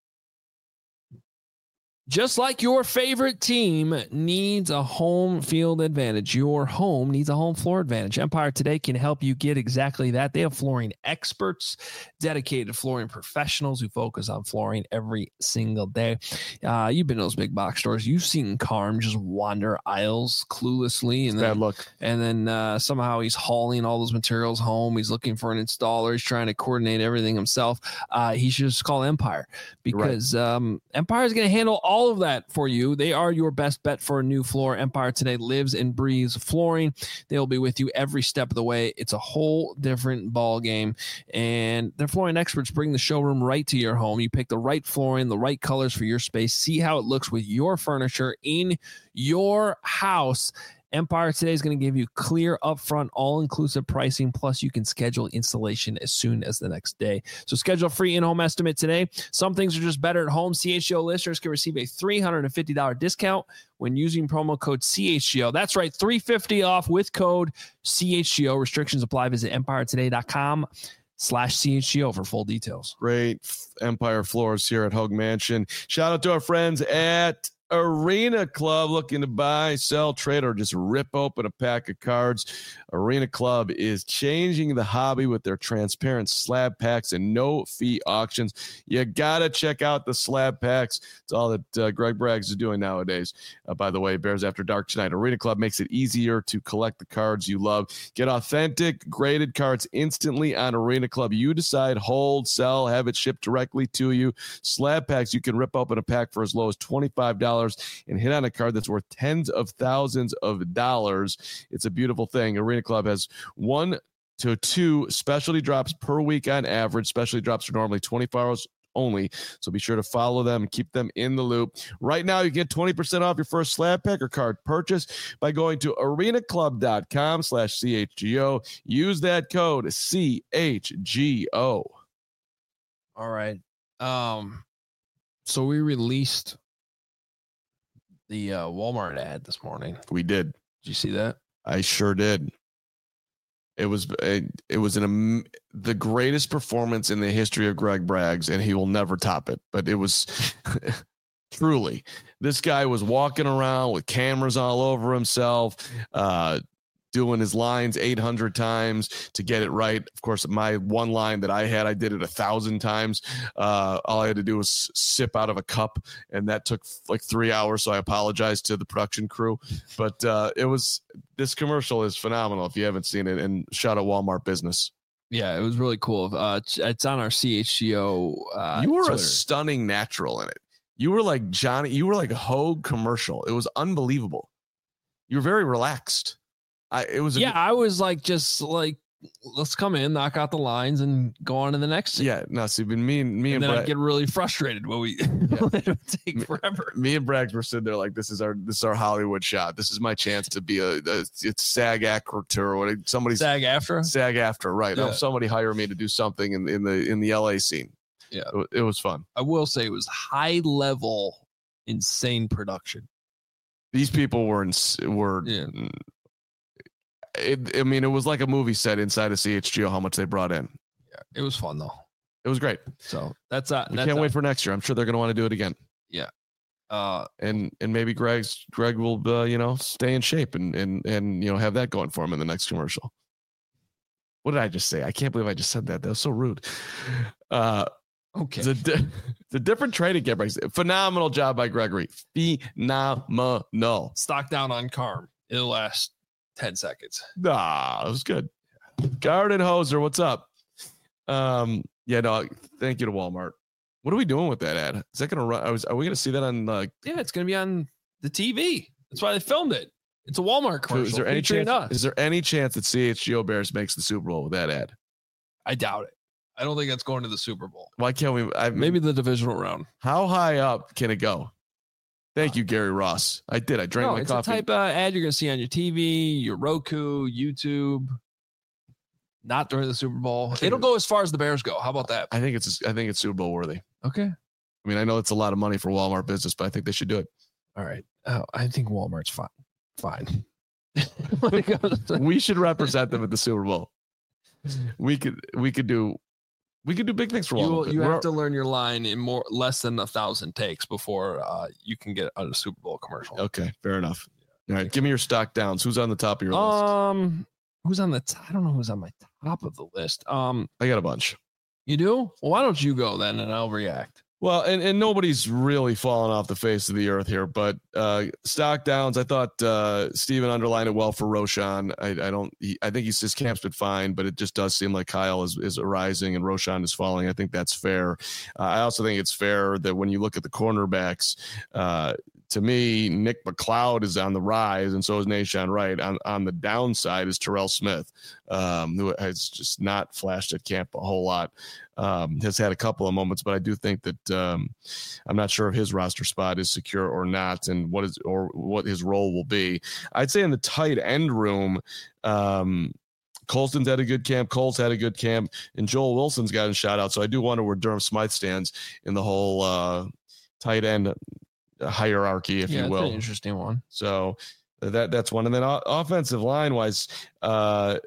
just like your favorite team needs a home field advantage, your home needs a home floor advantage. Empire Today can help you get exactly that. They have flooring experts, dedicated flooring professionals who focus on flooring every single day. Uh, you've been to those big box stores. You've seen Carm just wander aisles cluelessly. And then, bad luck. And then uh, somehow he's hauling all those materials home. He's looking for an installer. He's trying to coordinate everything himself. Uh, he should just call Empire, because right. um, Empire is going to handle all all of that for you. They are your best bet for a new floor. Empire Today lives and breathes flooring. They'll be with you every step of the way. It's a whole different ball game, and their flooring experts bring the showroom right to your home. You pick the right flooring, the right colors for your space. See how it looks with your furniture in your house. Empire Today is going to give you clear, upfront, all-inclusive pricing, plus you can schedule installation as soon as the next day. So schedule a free in-home estimate today. Some things are just better at home. C H G O listeners can receive a three hundred fifty dollars discount when using promo code C H G O. That's right, three hundred fifty dollars off with code C H G O. Restrictions apply. Visit empire today dot com slash C H G O for full details. Great Empire Floors here at Hogue Mansion. Shout out to our friends at Arena Club, looking to buy, sell, trade, or just rip open a pack of cards. Arena Club is changing the hobby with their transparent slab packs and no-fee auctions. You got to check out the slab packs. It's all that uh, Greg Braggs is doing nowadays. Uh, by the way, Bears After Dark tonight. Arena Club makes it easier to collect the cards you love. Get authentic, graded cards instantly on Arena Club. You decide, hold, sell, have it shipped directly to you. Slab packs, you can rip open a pack for as low as twenty-five dollars and hit on a card that's worth tens of thousands of dollars. It's a beautiful thing. Arena Club has one to two specialty drops per week on average. Specialty drops are normally twenty-four hours only, so be sure to follow them and keep them in the loop. Right now, you get twenty percent off your first slab pack or card purchase by going to arenaclub.com slash CHGO. Use that code C H G O. All right. Um, so we released the uh, Walmart ad this morning. We did. Did you see that? I sure did. It was it, it was an the greatest performance in the history of Greg Braggs, and he will never top it. But it was truly, this guy was walking around with cameras all over himself, uh, doing his lines eight hundred times to get it right. Of course, my one line that I had, I did it a thousand times. Uh, all I had to do was sip out of a cup, and that took like three hours. So I apologize to the production crew, but uh, it was, this commercial is phenomenal if you haven't seen it, and shout out Walmart Business. Yeah, it was really cool. Uh, it's on our C H G O. Uh, you were Twitter. a stunning natural in it. You were like Johnny, you were like a Hogue commercial. It was unbelievable. You were very relaxed. I, it was a, yeah, I was like, just like, let's come in, knock out the lines, and go on to the next scene. Yeah, no, see, but me and me and, and then Brad, I'd get really frustrated when we Yeah. it would take forever. Me and Braggs were sitting there like, this is our this is our Hollywood shot. This is my chance to be a, a it's SAG actor or what somebody's SAG after SAG after, right? Yeah. Oh, somebody hire me to do something in, in the in the L A scene. Yeah, it, it was fun. I will say it was high level, insane production. These people were in, were. Yeah. It, I mean, it was like a movie set inside of C H G O. How much they brought in. Yeah, it was fun though. It was great. So that's uh, we that's can't uh, wait for next year. I'm sure they're going to want to do it again. Yeah. Uh, and and maybe Greg's Greg will uh, you know stay in shape and and and you know have that going for him in the next commercial. What did I just say? I can't believe I just said that. That was so rude. Uh, okay. The di- the different trading game breaks. Phenomenal job by Gregory. Phenomenal. Stock down on Carm. It'll last ten seconds. Nah, it was good. Garden Hoser, what's up? Um, yeah, no, thank you to Walmart. What are we doing with that ad? Is that gonna run? I was, are we gonna see that on like? Yeah, it's gonna be on the T V. That's why they filmed it. It's a Walmart commercial. Is there any featuring chance? us. Is there any chance that C H G O Bears makes the Super Bowl with that ad? I doubt it. I don't think that's going to the Super Bowl. Why can't we? I, Maybe the divisional round. How high up can it go? Thank you, Gary Ross. I did. I drank No, my it's coffee. a type of ad you're gonna see on your T V, your Roku, YouTube. Not during the Super Bowl. It'll go as far as the Bears go. How about that? I think it's. I think it's Super Bowl worthy. Okay. I mean, I know it's a lot of money for Walmart business, but I think they should do it. All right. Oh, I think Walmart's fine. Fine. We should represent them at the Super Bowl. We could. We could do. We could do big things for You, Walmart. will, you We're- have to learn your line in more less than a thousand takes before uh, you can get on a Super Bowl commercial. Okay, fair enough. All right, give me your stock downs. Who's on the top of your list? Um, who's on the? T- I don't know who's on my top of the list. Um, I got a bunch. you do? Well, why don't you go then, and I'll react. Well, and, and nobody's really fallen off the face of the earth here, but uh, stock downs. I thought uh, Steven underlined it well for Roshan. I, I don't. He, I think he's his camp's been fine, but it just does seem like Kyle is is rising and Roshan is falling. I think that's fair. Uh, I also think it's fair that when you look at the cornerbacks, uh, to me, Nick McLeod is on the rise, and so is Nahshon Wright. On on the downside is Terrell Smith, um, who has just not flashed at camp a whole lot. Um, has had a couple of moments, but I do think that um, I'm not sure if his roster spot is secure or not, and what is or what his role will be. I'd say in the tight end room, um, Colston's had a good camp, Cole's had a good camp, and Joel Wilson's gotten shot out. So I do wonder where Durham Smythe stands in the whole uh, tight end hierarchy, if yeah, you that's will. an interesting one. So that that's one, and then o- offensive line wise. Uh,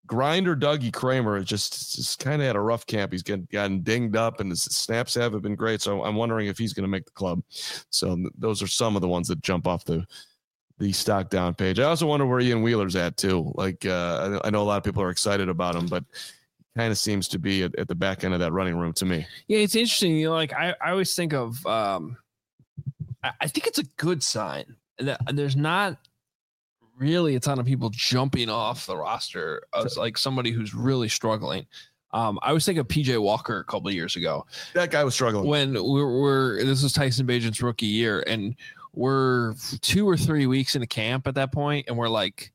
grinder Dougie Kramer just, just kind of had a rough camp. He's getting gotten dinged up, and his snaps haven't been great. So I'm wondering if he's going to make the club. So those are some of the ones that jump off the the stock down page. I also wonder where Ian Wheeler's at too. Like uh, I know a lot of people are excited about him, but kind of seems to be at, at the back end of that running room to me. Yeah, it's interesting. You know, like I, I always think of, um, I, I think it's a good sign that there's not really a ton of people jumping off the roster as like somebody who's really struggling. Um, I was thinking of P J Walker a couple of years ago. That guy was struggling when we we're, we're this was Tyson Bagent's rookie year, and we're two or three weeks into camp at that point, and we're like,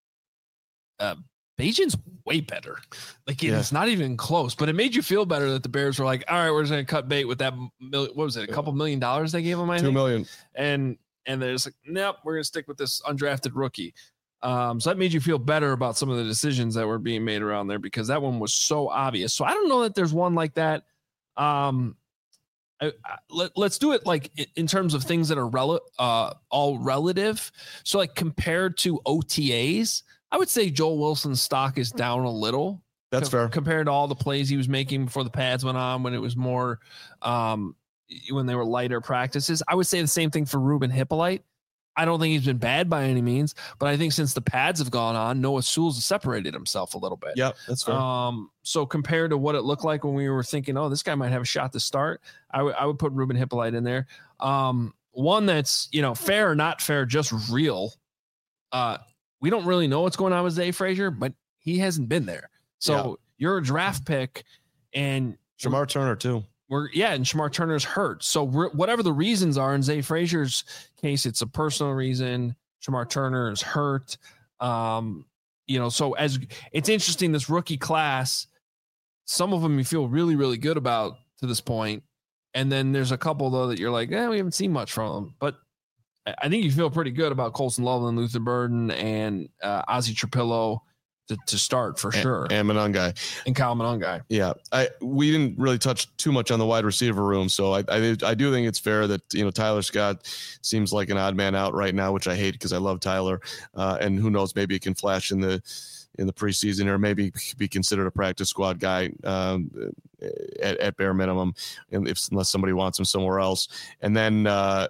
uh, Bagent's way better. Like yeah. It's not even close, but it made you feel better that the Bears were like, all right, we're just going to cut bait with that. Mil- what was it? A couple million dollars they gave him? I Two think? million. And, and there's like, nope, we're going to stick with this undrafted rookie. Um, so that made you feel better about some of the decisions that were being made around there, because that one was so obvious. So I don't know that there's one like that. Um, I, I, let, let's do it like in terms of things that are rel- uh, all relative. So like compared to O T As, I would say Joel Wilson's stock is down a little. That's co- fair. Compared to all the plays he was making before the pads went on, when it was more, um, when they were lighter practices. I would say the same thing for Ruben Hippolyte. I don't think he's been bad by any means, but I think since the pads have gone on, Noah Sewell's has separated himself a little bit. Yep, that's fair. Um, so compared to what it looked like when we were thinking, oh, this guy might have a shot to start, I, w- I would put Ruben Hippolyte in there. Um, one that's, you know, fair or not fair, just real. Uh, we don't really know what's going on with Zay Frazier, but he hasn't been there. So yeah. You're a draft pick, and Shamar Turner too. We're yeah, and Shamar Turner's hurt. So re- whatever the reasons are in Zay Frazier's case, it's a personal reason. Shamar Turner is hurt. Um, you know, so as it's interesting, this rookie class, some of them you feel really, really good about to this point, and then there's a couple though that you're like, eh, we haven't seen much from them. But I think you feel pretty good about Colson Loveland, Luther Burden, and uh, Ozzie Trapillo to, to start for sure. And Monangai. And Kyle Monangai. Yeah. I we didn't really touch too much on the wide receiver room. So I, I I do think it's fair that, you know, Tyler Scott seems like an odd man out right now, which I hate because I love Tyler. Uh, and who knows, maybe it can flash in the in the preseason, or maybe be considered a practice squad guy um, at, at bare minimum, and if unless somebody wants him somewhere else. And then uh,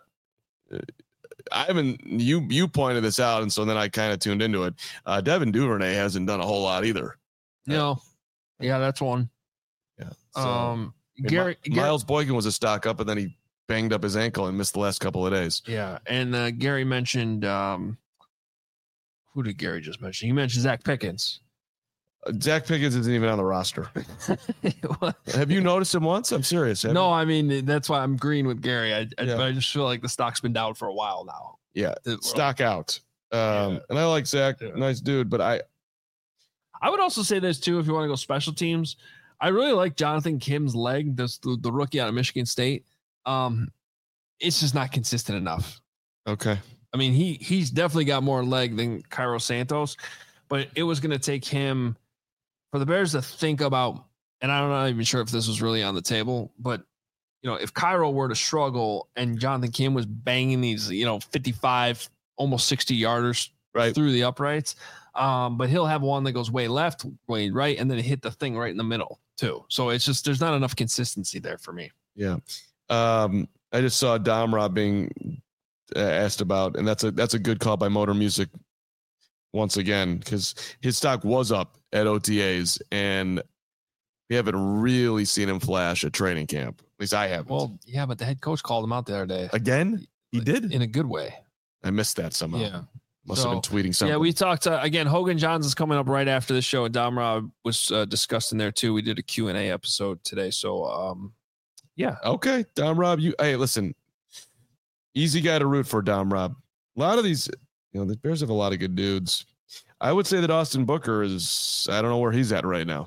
I haven't you you pointed this out, and so then I kind of tuned into it. Uh, Devin Duvernay hasn't done a whole lot either. No, yeah, that's one. Yeah. So, um, I mean, Gary, My, Miles Boykin was a stock up, and then he banged up his ankle and missed the last couple of days. Yeah, and uh, Gary mentioned um, who did Gary just mention? He mentioned Zach Pickens. Uh, Zach Pickens isn't even on the roster. Have you noticed him once? I'm serious. No, I mean, that's why I'm green with Gary. I, I, Yeah. but I just feel like the stock's been down for a while now. Yeah, The- stock out. Um, Yeah. And I like Zach, Yeah. nice dude, but I I would also say this too, if you want to go special teams. I really like Jonathan Kim's leg, this the, the rookie out of Michigan State. Um, it's just not consistent enough. okay. I mean, he he's definitely got more leg than Cairo Santos, but it was going to take him for the Bears to think about, and I'm not even sure if this was really on the table, but you know, if Cairo were to struggle and Jonathan Kim was banging these, you know, fifty-five, almost sixty yarders Right. through the uprights, um, but he'll have one that goes way left, way right, and then hit the thing right in the middle too. So it's just there's not enough consistency there for me. Yeah. Um, I just saw Dom Rob being uh, asked about, and that's a that's a good call by Motor Music once again, because his stock was up at O T As, and we haven't really seen him flash at training camp. At least I haven't. Well, yeah, but the head coach called him out the other day again, he did. in a good way. I missed that somehow. Yeah. Must So, have been tweeting something. Yeah, we talked uh, again. Hogan Johns is coming up right after this show, and Dom Rob was uh, discussed in there too. We did a Q and A episode today, so um, yeah, Okay, Dom Rob, you hey, listen, easy guy to root for, Dom Rob. A lot of these, you know, the Bears have a lot of good dudes. I would say that Austin Booker is, I don't know where he's at right now.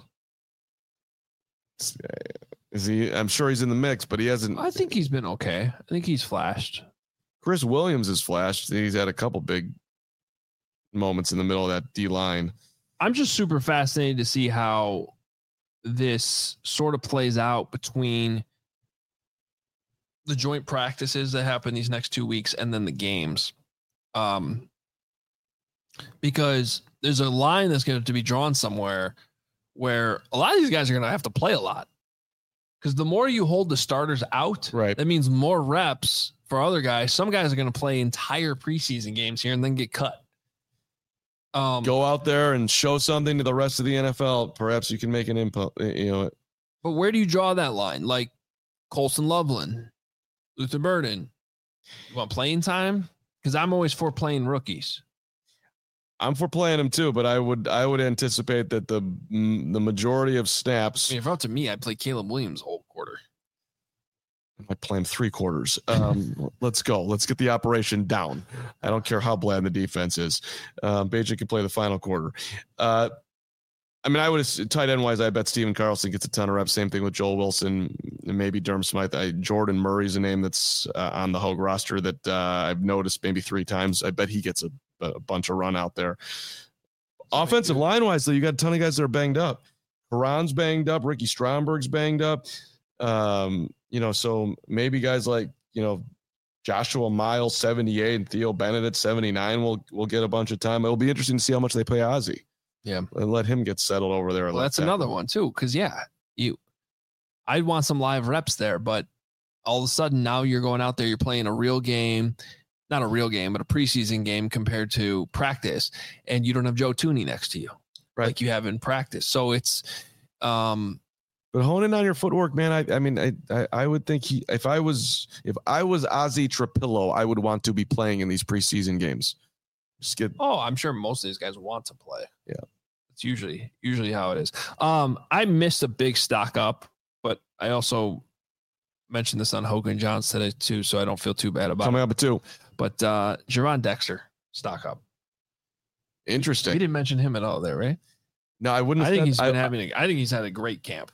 Is he? I'm sure he's in the mix, but he hasn't. I think he's been okay. I think he's flashed. Chris Williams has flashed. He's had a couple big moments in the middle of that D line. I'm just super fascinated to see how this sort of plays out between the joint practices that happen these next two weeks and then the games. Um, because there's a line that's going to be drawn somewhere where a lot of these guys are going to have to play a lot. Because the more you hold the starters out, right, that means more reps for other guys. Some guys are going to play entire preseason games here and then get cut. Um, Go out there and show something to the rest of the N F L. Perhaps you can make an input. You know, but where do you draw that line? Like Colson Loveland, Luther Burden. You want playing time? Because I'm always for playing rookies. I'm for playing them too, but I would I would anticipate that the the majority of snaps. I mean, if up to me, I'd play Caleb Williams whole quarter. I play him three quarters. Um, let's go. Let's get the operation down. I don't care how bland the defense is. Um, Bajik can play the final quarter. Uh, I mean, I would have tight end wise. I bet Steven Carlson gets a ton of reps. Same thing with Joel Wilson, and maybe Durham Smythe. I, Jordan Murray's a name that's uh, on the Hogue roster that uh, I've noticed maybe three times. I bet he gets a, a bunch of run out there. Offensive line wise, though, you got a ton of guys that are banged up. Karan's banged up. Ricky Stromberg's banged up. Um, you know, so maybe guys like, you know, Joshua Miles, seventy-eight, and Theo Bennett at seventy-nine will will get a bunch of time. It'll be interesting to see how much they play Ozzie. Yeah. And let him get settled over there. Well, that's another one too. Cause yeah, you, I'd want some live reps there, but all of a sudden now you're going out there, you're playing a real game, not a real game, but a preseason game compared to practice. And you don't have Joe Tooney next to you, right, like you have in practice. So it's, um, but honing on your footwork, man. I, I mean, I, I, I would think he, if I was, if I was Ozzie Trapillo, I would want to be playing in these preseason games. Just get. Oh, I'm sure most of these guys want to play. Yeah. It's usually, usually how it is. Um, I missed a big stock up, but I also mentioned this on Hogan Johns today too, so I don't feel too bad about coming it. up at two. But uh, Jerron Dexter stock up. Interesting. We didn't mention him at all there, right? No, I wouldn't. I Have think said, he's been I, having. A, I think he's had a great camp.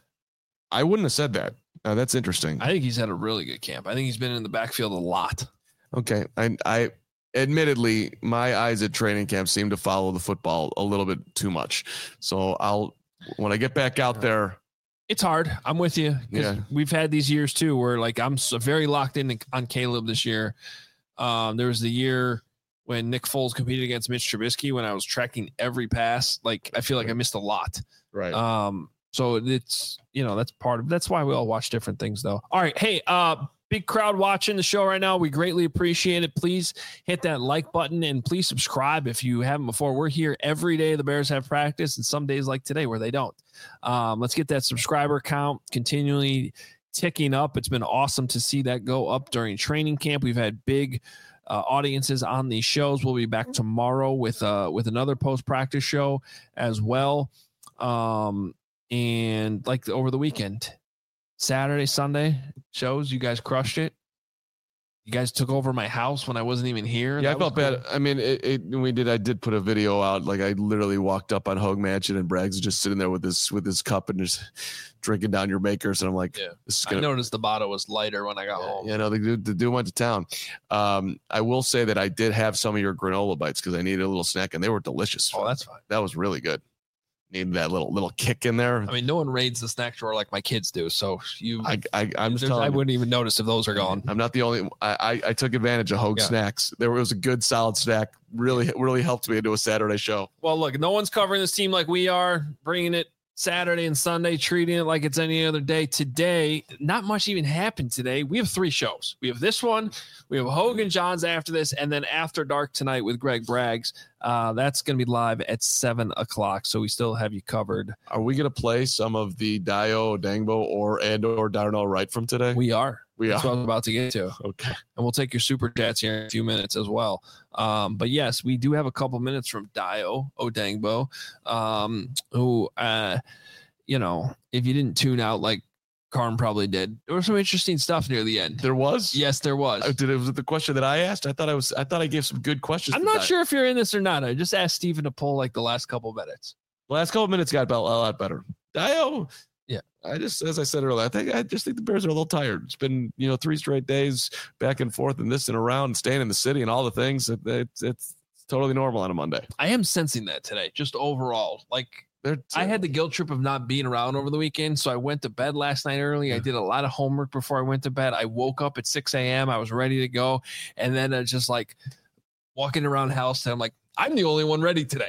I wouldn't have said that. Uh, that's interesting. I think he's had a really good camp. I think he's been in the backfield a lot. Okay, I, I admittedly, my eyes at training camp seem to follow the football a little bit too much. So I'll, when I get back out there, it's hard. I'm with you. Yeah. We've had these years too, where like I'm so very locked in on Caleb this year. Um, there was the year when Nick Foles competed against Mitch Trubisky when I was tracking every pass. Like I feel like I missed a lot. Right. Um, so it's, you know, that's part of, that's why we all watch different things though. All right. Hey, uh, big crowd watching the show right now. We greatly appreciate it. Please hit that like button and please subscribe if you haven't before. We're here every day. The Bears have practice and some days like today where they don't. Um, let's get that subscriber count continually ticking up. It's been awesome to see that go up during training camp. We've had big uh, audiences on these shows. We'll be back tomorrow with uh, with another post-practice show as well. Um, and like over the weekend, Saturday, Sunday shows, you guys crushed it. You guys took over my house when I wasn't even here. Yeah, That I felt was cool. bad. I mean, it, it, we did. I did put a video out. Like I literally walked up on Hogue Mansion and Braggs just sitting there with this with his cup and just drinking down your makers. And I'm like, Yeah. this is I gonna. noticed the bottle was lighter when I got home. You know, the dude, the dude went to town. Um, I will say that I did have some of your granola bites because I needed a little snack, and they were delicious. Oh, that's fine. That was really good. Needed that little little kick in there. I mean, no one raids the snack drawer like my kids do. So you, I, I I'm just there's- telling I you. wouldn't even notice if those are gone. I'm not the only. I I, I took advantage of Hogue Yeah. snacks. There was a good solid snack. Really really helped me into a Saturday show. Well, look, no one's covering this team like we are, bringing it Saturday and Sunday, treating it like it's any other day. Today, not much even happened today. We have three shows. We have this one, we have Hogan Johns after this, and then After Dark tonight with Greg Braggs. Uh, that's going to be live at seven o'clock. So we still have you covered. Are we going to play some of the Dio Dangbo or and or Darnell Wright from today? We are. We That's are. what I was about to get to. Okay. And we'll take your super chats here in a few minutes as well. Um, but yes, we do have a couple minutes from Dio Odangbo, um, who, uh, you know, if you didn't tune out like Carm probably did, there was some interesting stuff near the end. There was. Yes, there was. Uh, Did it was it the question that I asked? I thought I was. I thought I gave some good questions. I'm for not that. sure if you're in this or not. I just asked Steven to pull like the last couple minutes. The last couple of minutes got a lot better. Dio. Yeah. I just, as I said earlier, I think I just think the Bears are a little tired. It's been, you know, three straight days back and forth and this and around and staying in the city and all the things. It, it's it's totally normal on a Monday. I am sensing that today, just overall. Like They're, I had the guilt trip of not being around over the weekend. So I went to bed last night early. I did a lot of homework before I went to bed. I woke up at six a.m. I was ready to go. And then I just like walking around the house and I'm like, I'm the only one ready today.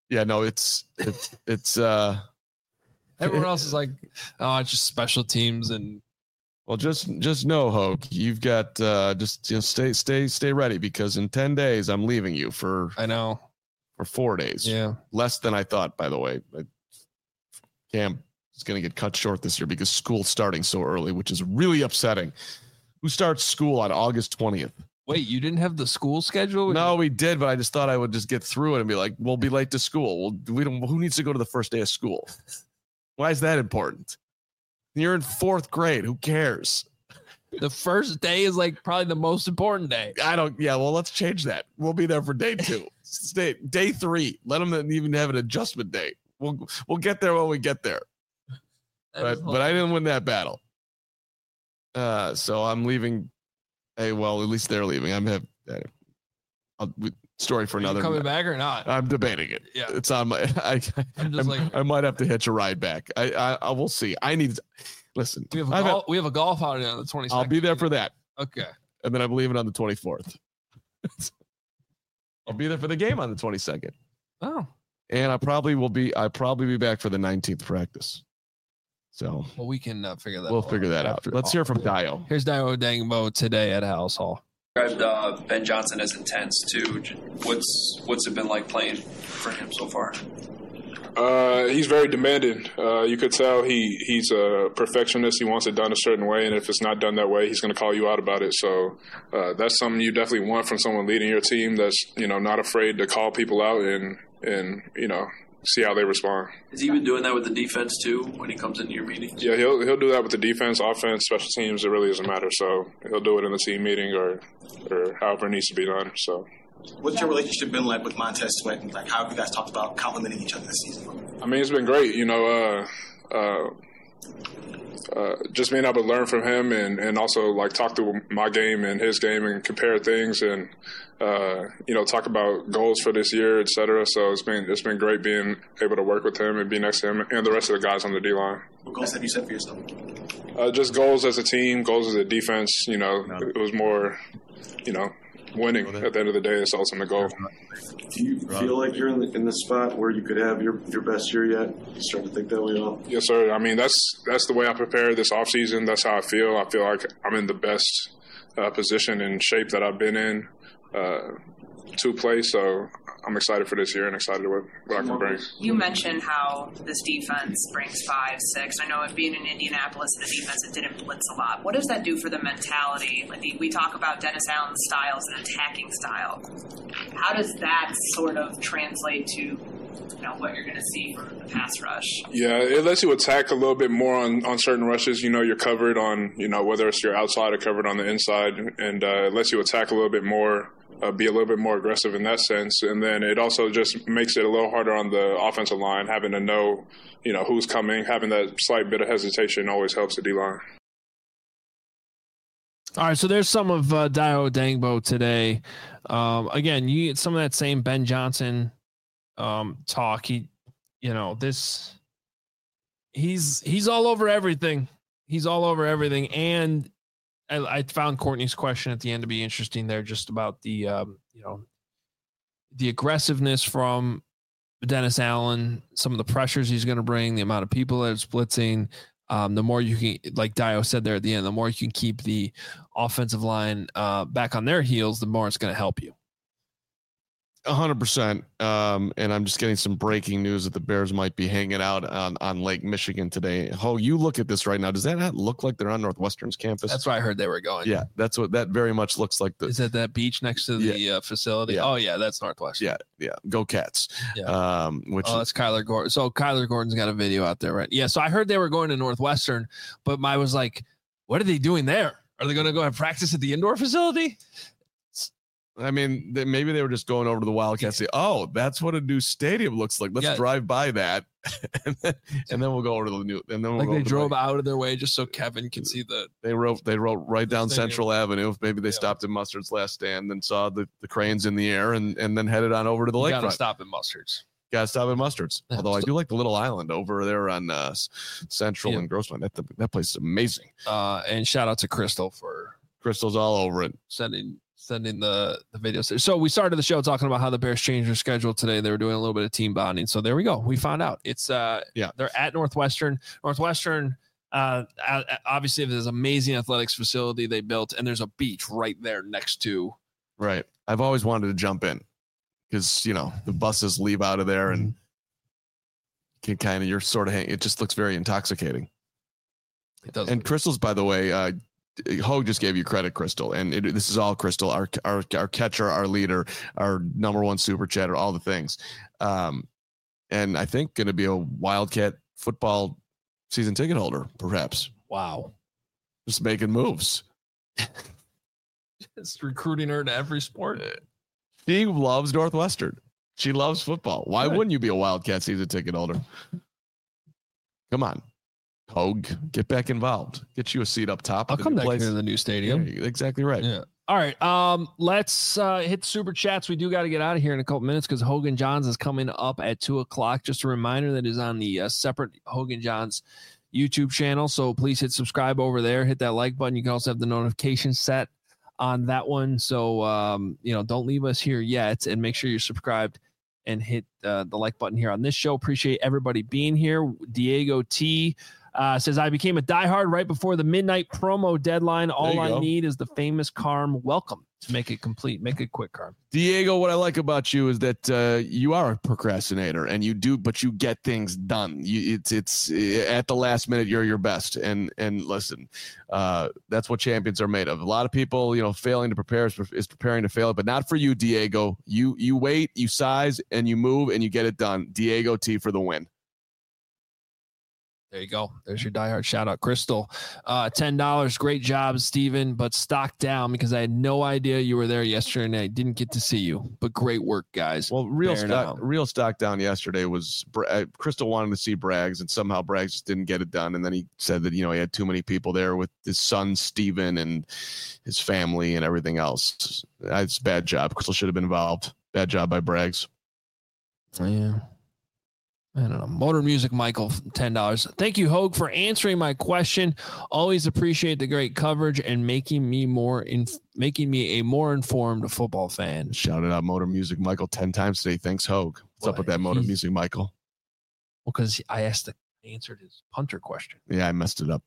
Yeah, no, it's it's it's uh Everyone else is like, oh, it's just special teams and well, just just know, Hogue, you've got uh just you know, stay stay stay ready because in ten days I'm leaving you for I know for four days. Yeah, less than I thought. By the way, Cam is going to get cut short this year because school's starting so early, which is really upsetting. Who starts school on August twentieth? Wait, you didn't have the school schedule? No, we did, but I just thought I would just get through it and be like, we'll be late to school. Well, we don't. Who needs to go to the first day of school? Why is that important? You're in fourth grade. Who cares? The first day is like probably the most important day. I don't. Yeah, well, let's change that. We'll be there for day two. Stay day three. Let them even have an adjustment day. We'll we'll get there when we get there. But but I didn't win that battle. Uh, so I'm leaving. Hey, well, at least they're leaving. I'm have. I'll, story for Are you another. coming back or not? I'm debating it. Yeah, it's on my. I I'm just I'm, like I might have to hitch a ride back. I I, I will see. I need. Listen, we have a I've golf, had- we have a golf outing on the twenty-second. I'll be there for that, Okay. and then I'm leaving on the twenty-fourth. I'll be there for the game on the twenty-second. Oh, And I probably will be. I probably be back for the nineteenth practice. So well, we can uh, figure that. we'll out figure that out. after- Let's hear from Dio. Here's Dio Dangbo today at House Hall. Described uh, Ben Johnson as intense too. What's what's it been like playing for him so far? Uh, he's very demanding. Uh, you could tell he, he's a perfectionist. He wants it done a certain way, and if it's not done that way, he's going to call you out about it. So uh, that's something you definitely want from someone leading your team that's, you know, not afraid to call people out and, and you know, see how they respond. Has he been doing that with the defense too when he comes into your meetings? Yeah, he'll he'll do that with the defense, offense, special teams. It really doesn't matter. So he'll do it in the team meeting or or however it needs to be done. So. What's your relationship been like with Montez Sweat? And like, how have you guys talked about complimenting each other this season? I mean, it's been great. You know, uh, uh, uh, just being able to learn from him and, and also like talk through my game and his game and compare things and uh, you know talk about goals for this year, et cetera. So it's been it's been great being able to work with him and be next to him and the rest of the guys on the D line. What goals have you set for yourself? Uh, just goals as a team, goals as a defense. You know, it was more, you know. Winning at the end of the day is the ultimate goal. Do you feel like you're in the, in the spot where you could have your, your best year yet? You starting to think that way at all? Yes, sir. I mean, that's that's the way I prepare this offseason. That's how I feel. I feel like I'm in the best uh, position and shape that I've been in uh, to play. So I'm excited for this year and excited what, what I can bring. You mentioned how this defense brings five, six. I know it being in Indianapolis, the defense, it didn't blitz a lot. What does that do for the mentality? Like the, we talk about Dennis Allen's style as an attacking style. How does that sort of translate to, you know, what you're going to see for the pass rush? Yeah, it lets you attack a little bit more on, on certain rushes. You know, you're covered on, you know, whether it's your outside or covered on the inside, and uh, it lets you attack a little bit more. Uh, be a little bit more aggressive in that sense. And then it also just makes it a little harder on the offensive line, having to know, you know, who's coming, having that slight bit of hesitation always helps the D-line. All right, so there's some of uh, Dio Dangbo today. Um, again, you get some of that same Ben Johnson um, talk. He, you know, this he's he's all over everything. He's all over everything, and I, I found Courtney's question at the end to be interesting there, just about the um, you know the aggressiveness from Dennis Allen, some of the pressures he's going to bring, the amount of people that are blitzing. Um, the more you can, like Dio said there at the end, the more you can keep the offensive line uh, back on their heels, the more it's going to help you. A hundred percent. Um, and I'm just getting some breaking news that the Bears might be hanging out on, on Lake Michigan today. Ho, you look at this right now. Does that not look like they're on Northwestern's campus? That's why I heard they were going. Yeah, that's what that very much looks like. The, Is that that beach next to the Yeah. uh, facility? Yeah. Oh yeah, that's Northwestern. yeah, yeah. Go Cats. Yeah. Um, which Oh, that's Kyler Gordon. So Kyler Gordon's got a video out there, right? Yeah. So I heard they were going to Northwestern, but I was like, what are they doing there? Are they going to go have practice at the indoor facility? I mean, they, maybe they were just going over to the Wildcats. Say, oh, that's what a new stadium looks like. Let's Yeah. drive by that, and then, and then we'll go over to the new. And then we'll Like go they over to drove the, out of their way just so Kevin can see the. They wrote. They wrote right down stadium. Central Avenue. Maybe they Yeah. stopped at Mustard's last stand and saw the, the cranes in the air, and, and then headed on over to the You got to lakefront. stop at Mustard's. Got to stop at Mustard's. Yeah. Although I do like the little island over there on uh, Central Yeah. and Grossmont. That that place is amazing. Uh, and shout out to Crystal for Crystal's all over it. sending sending the, the videos. So we started the show talking about how the Bears changed their schedule today. They were doing a little bit of team bonding. So there we go. We found out. It's uh yeah. They're at Northwestern. Northwestern, uh, obviously, there's an amazing athletics facility they built, and there's a beach right there next to. Right. I've always wanted to jump in because, you know, the buses leave out of there and can kind of, you're sort of hang, it just looks very intoxicating. It does. And Crystal's, by the way, uh, Hogue just gave you credit, Crystal, and it, this is all Crystal, our, our our catcher, our leader, our number one super chatter, all the things. Um, and I think going to be a Wildcat football season ticket holder, perhaps. Wow. Just making moves. Just recruiting her to every sport. She loves Northwestern. She loves football. Why Good. wouldn't you be a Wildcat season ticket holder? Come on. Hogue, get back involved. Get you a seat up top. I'll come back place. Here to the new stadium. Yeah, exactly right. Yeah. All right. Um, let's uh, hit super chats. We do got to get out of here in a couple minutes because Hogan Johns is coming up at two o'clock. Just a reminder that is on the uh, separate Hogan Johns YouTube channel. So please hit subscribe over there. Hit that like button. You can also have the notification set on that one. So, um, you know, don't leave us here yet, and make sure you're subscribed and hit uh, the like button here on this show. Appreciate everybody being here. Diego T uh, says, I became a diehard right before the midnight promo deadline. All I go. need is the famous Carm welcome to make it complete. Make it quick, Carm. Diego, what I like about you is that uh, you are a procrastinator, and you do, but you get things done. You, it's it's at the last minute, you're your best. And and listen, uh, that's what champions are made of. A lot of people, you know, failing to prepare is, is preparing to fail, but not for you, Diego. You you wait, you size, and you move, and you get it done. Diego T for the win. There you go. There's your diehard shout out, Crystal. Uh, ten dollars. Great job, Steven, but stock down because I had no idea you were there yesterday and I didn't get to see you. But great work, guys. Well, real stock, real stock down yesterday was uh, Crystal wanted to see Braggs, and somehow Braggs just didn't get it done. And then he said that, you know, he had too many people there with his son, Steven, and his family and everything else. It's a bad job. Crystal should have been involved. Bad job by Braggs. Oh, yeah. I don't know. Motor Music Michael, ten dollars. Thank you, Hogue, for answering my question. Always appreciate the great coverage and making me more in making me a more informed football fan. Shouted out Motor Music Michael ten times today. Thanks, Hogue. What's well, up with that Motor Music Michael? Well, because I asked the I answered his punter question. Yeah, I messed it up.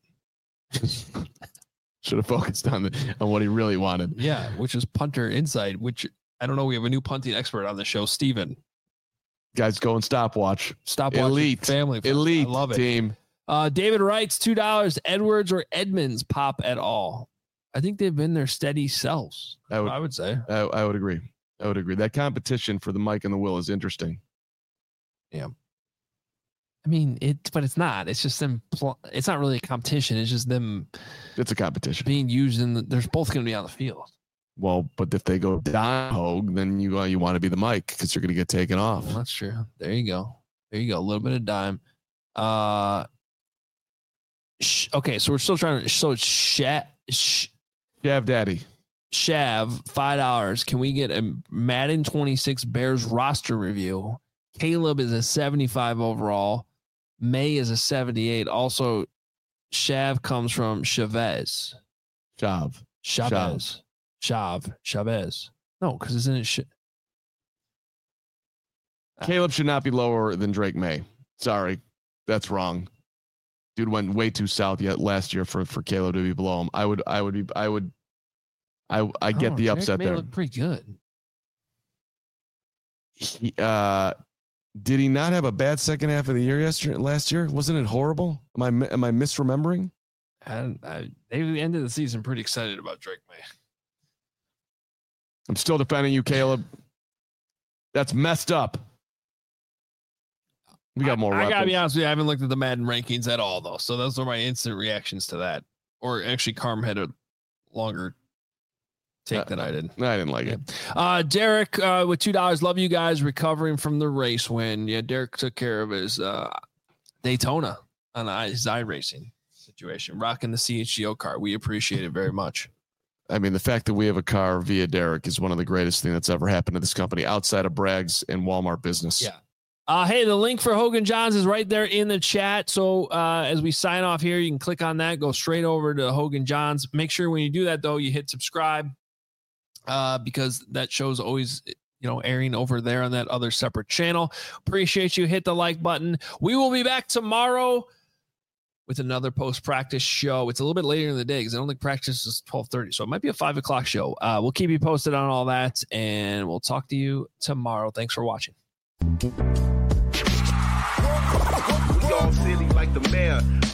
Should have focused on the, on what he really wanted. Yeah, which is punter insight, which I don't know. We have a new punting expert on the show, Steven. Guys, go and stopwatch. Stopwatch. Elite. Family. Elite I love it. Team. Uh, David writes, two dollars. Edwards or Edmonds pop at all? I think they've been their steady selves. I would, I would say. I, I would agree. I would agree. That competition for the Mike and the Will is interesting. Yeah. I mean, it, but it's not. It's just them. Pl- it's not really a competition. It's just them. It's a competition being used in the. They're both going to be on the field. Well, but if they go down, Hogue, then you uh, you want to be the Mike because you're going to get taken off. Well, that's true. There you go. There you go. A little bit of dime. Uh, sh- okay, so we're still trying to. So it's Shav, sh- Shav Daddy. Shav, five dollars. Can we get a Madden twenty-six Bears roster review? Caleb is a seventy-five overall. May is a seventy-eight. Also, Shav comes from Chavez. Shav. Chavez. Shav. Chavez. No, because isn't it shit? Caleb should not be lower than Drake May. Sorry. That's wrong. Dude went way too south yet last year for, for Caleb to be below him. I would, I would be, I would, I, I get oh, the upset Drake May there. Looked pretty good. He, uh, did he not have a bad second half of the year yesterday, last year? Wasn't it horrible? Am I, am I misremembering? And I, they ended the season pretty excited about Drake May. I'm still defending you, Caleb. That's messed up. We got more. I, I gotta be weapons. honest with you. I haven't looked at the Madden rankings at all, though. So those are my instant reactions to that. Or actually, Carm had a longer take uh, than I did. I didn't like yeah. it. Uh, Derek uh, with two dollars. Love you guys. Recovering from the race win. Yeah, Derek took care of his uh, Daytona on his iRacing situation, rocking the C H G O car. We appreciate it very much. I mean, the fact that we have a car via Derek is one of the greatest things that's ever happened to this company outside of Bragg's and Walmart business. Yeah. Uh, hey, the link for Hogan Johns is right there in the chat. So uh, as we sign off here, you can click on that, go straight over to Hogan Johns. Make sure when you do that, though, you hit subscribe uh, because that show's always, you know, airing over there on that other separate channel. Appreciate you. Hit the like button. We will be back tomorrow with another post-practice show. It's a little bit later in the day because I don't think practice is twelve thirty, so it might be a five o'clock show. Uh, we'll keep you posted on all that, and we'll talk to you tomorrow. Thanks for watching. We all silly like the mayor.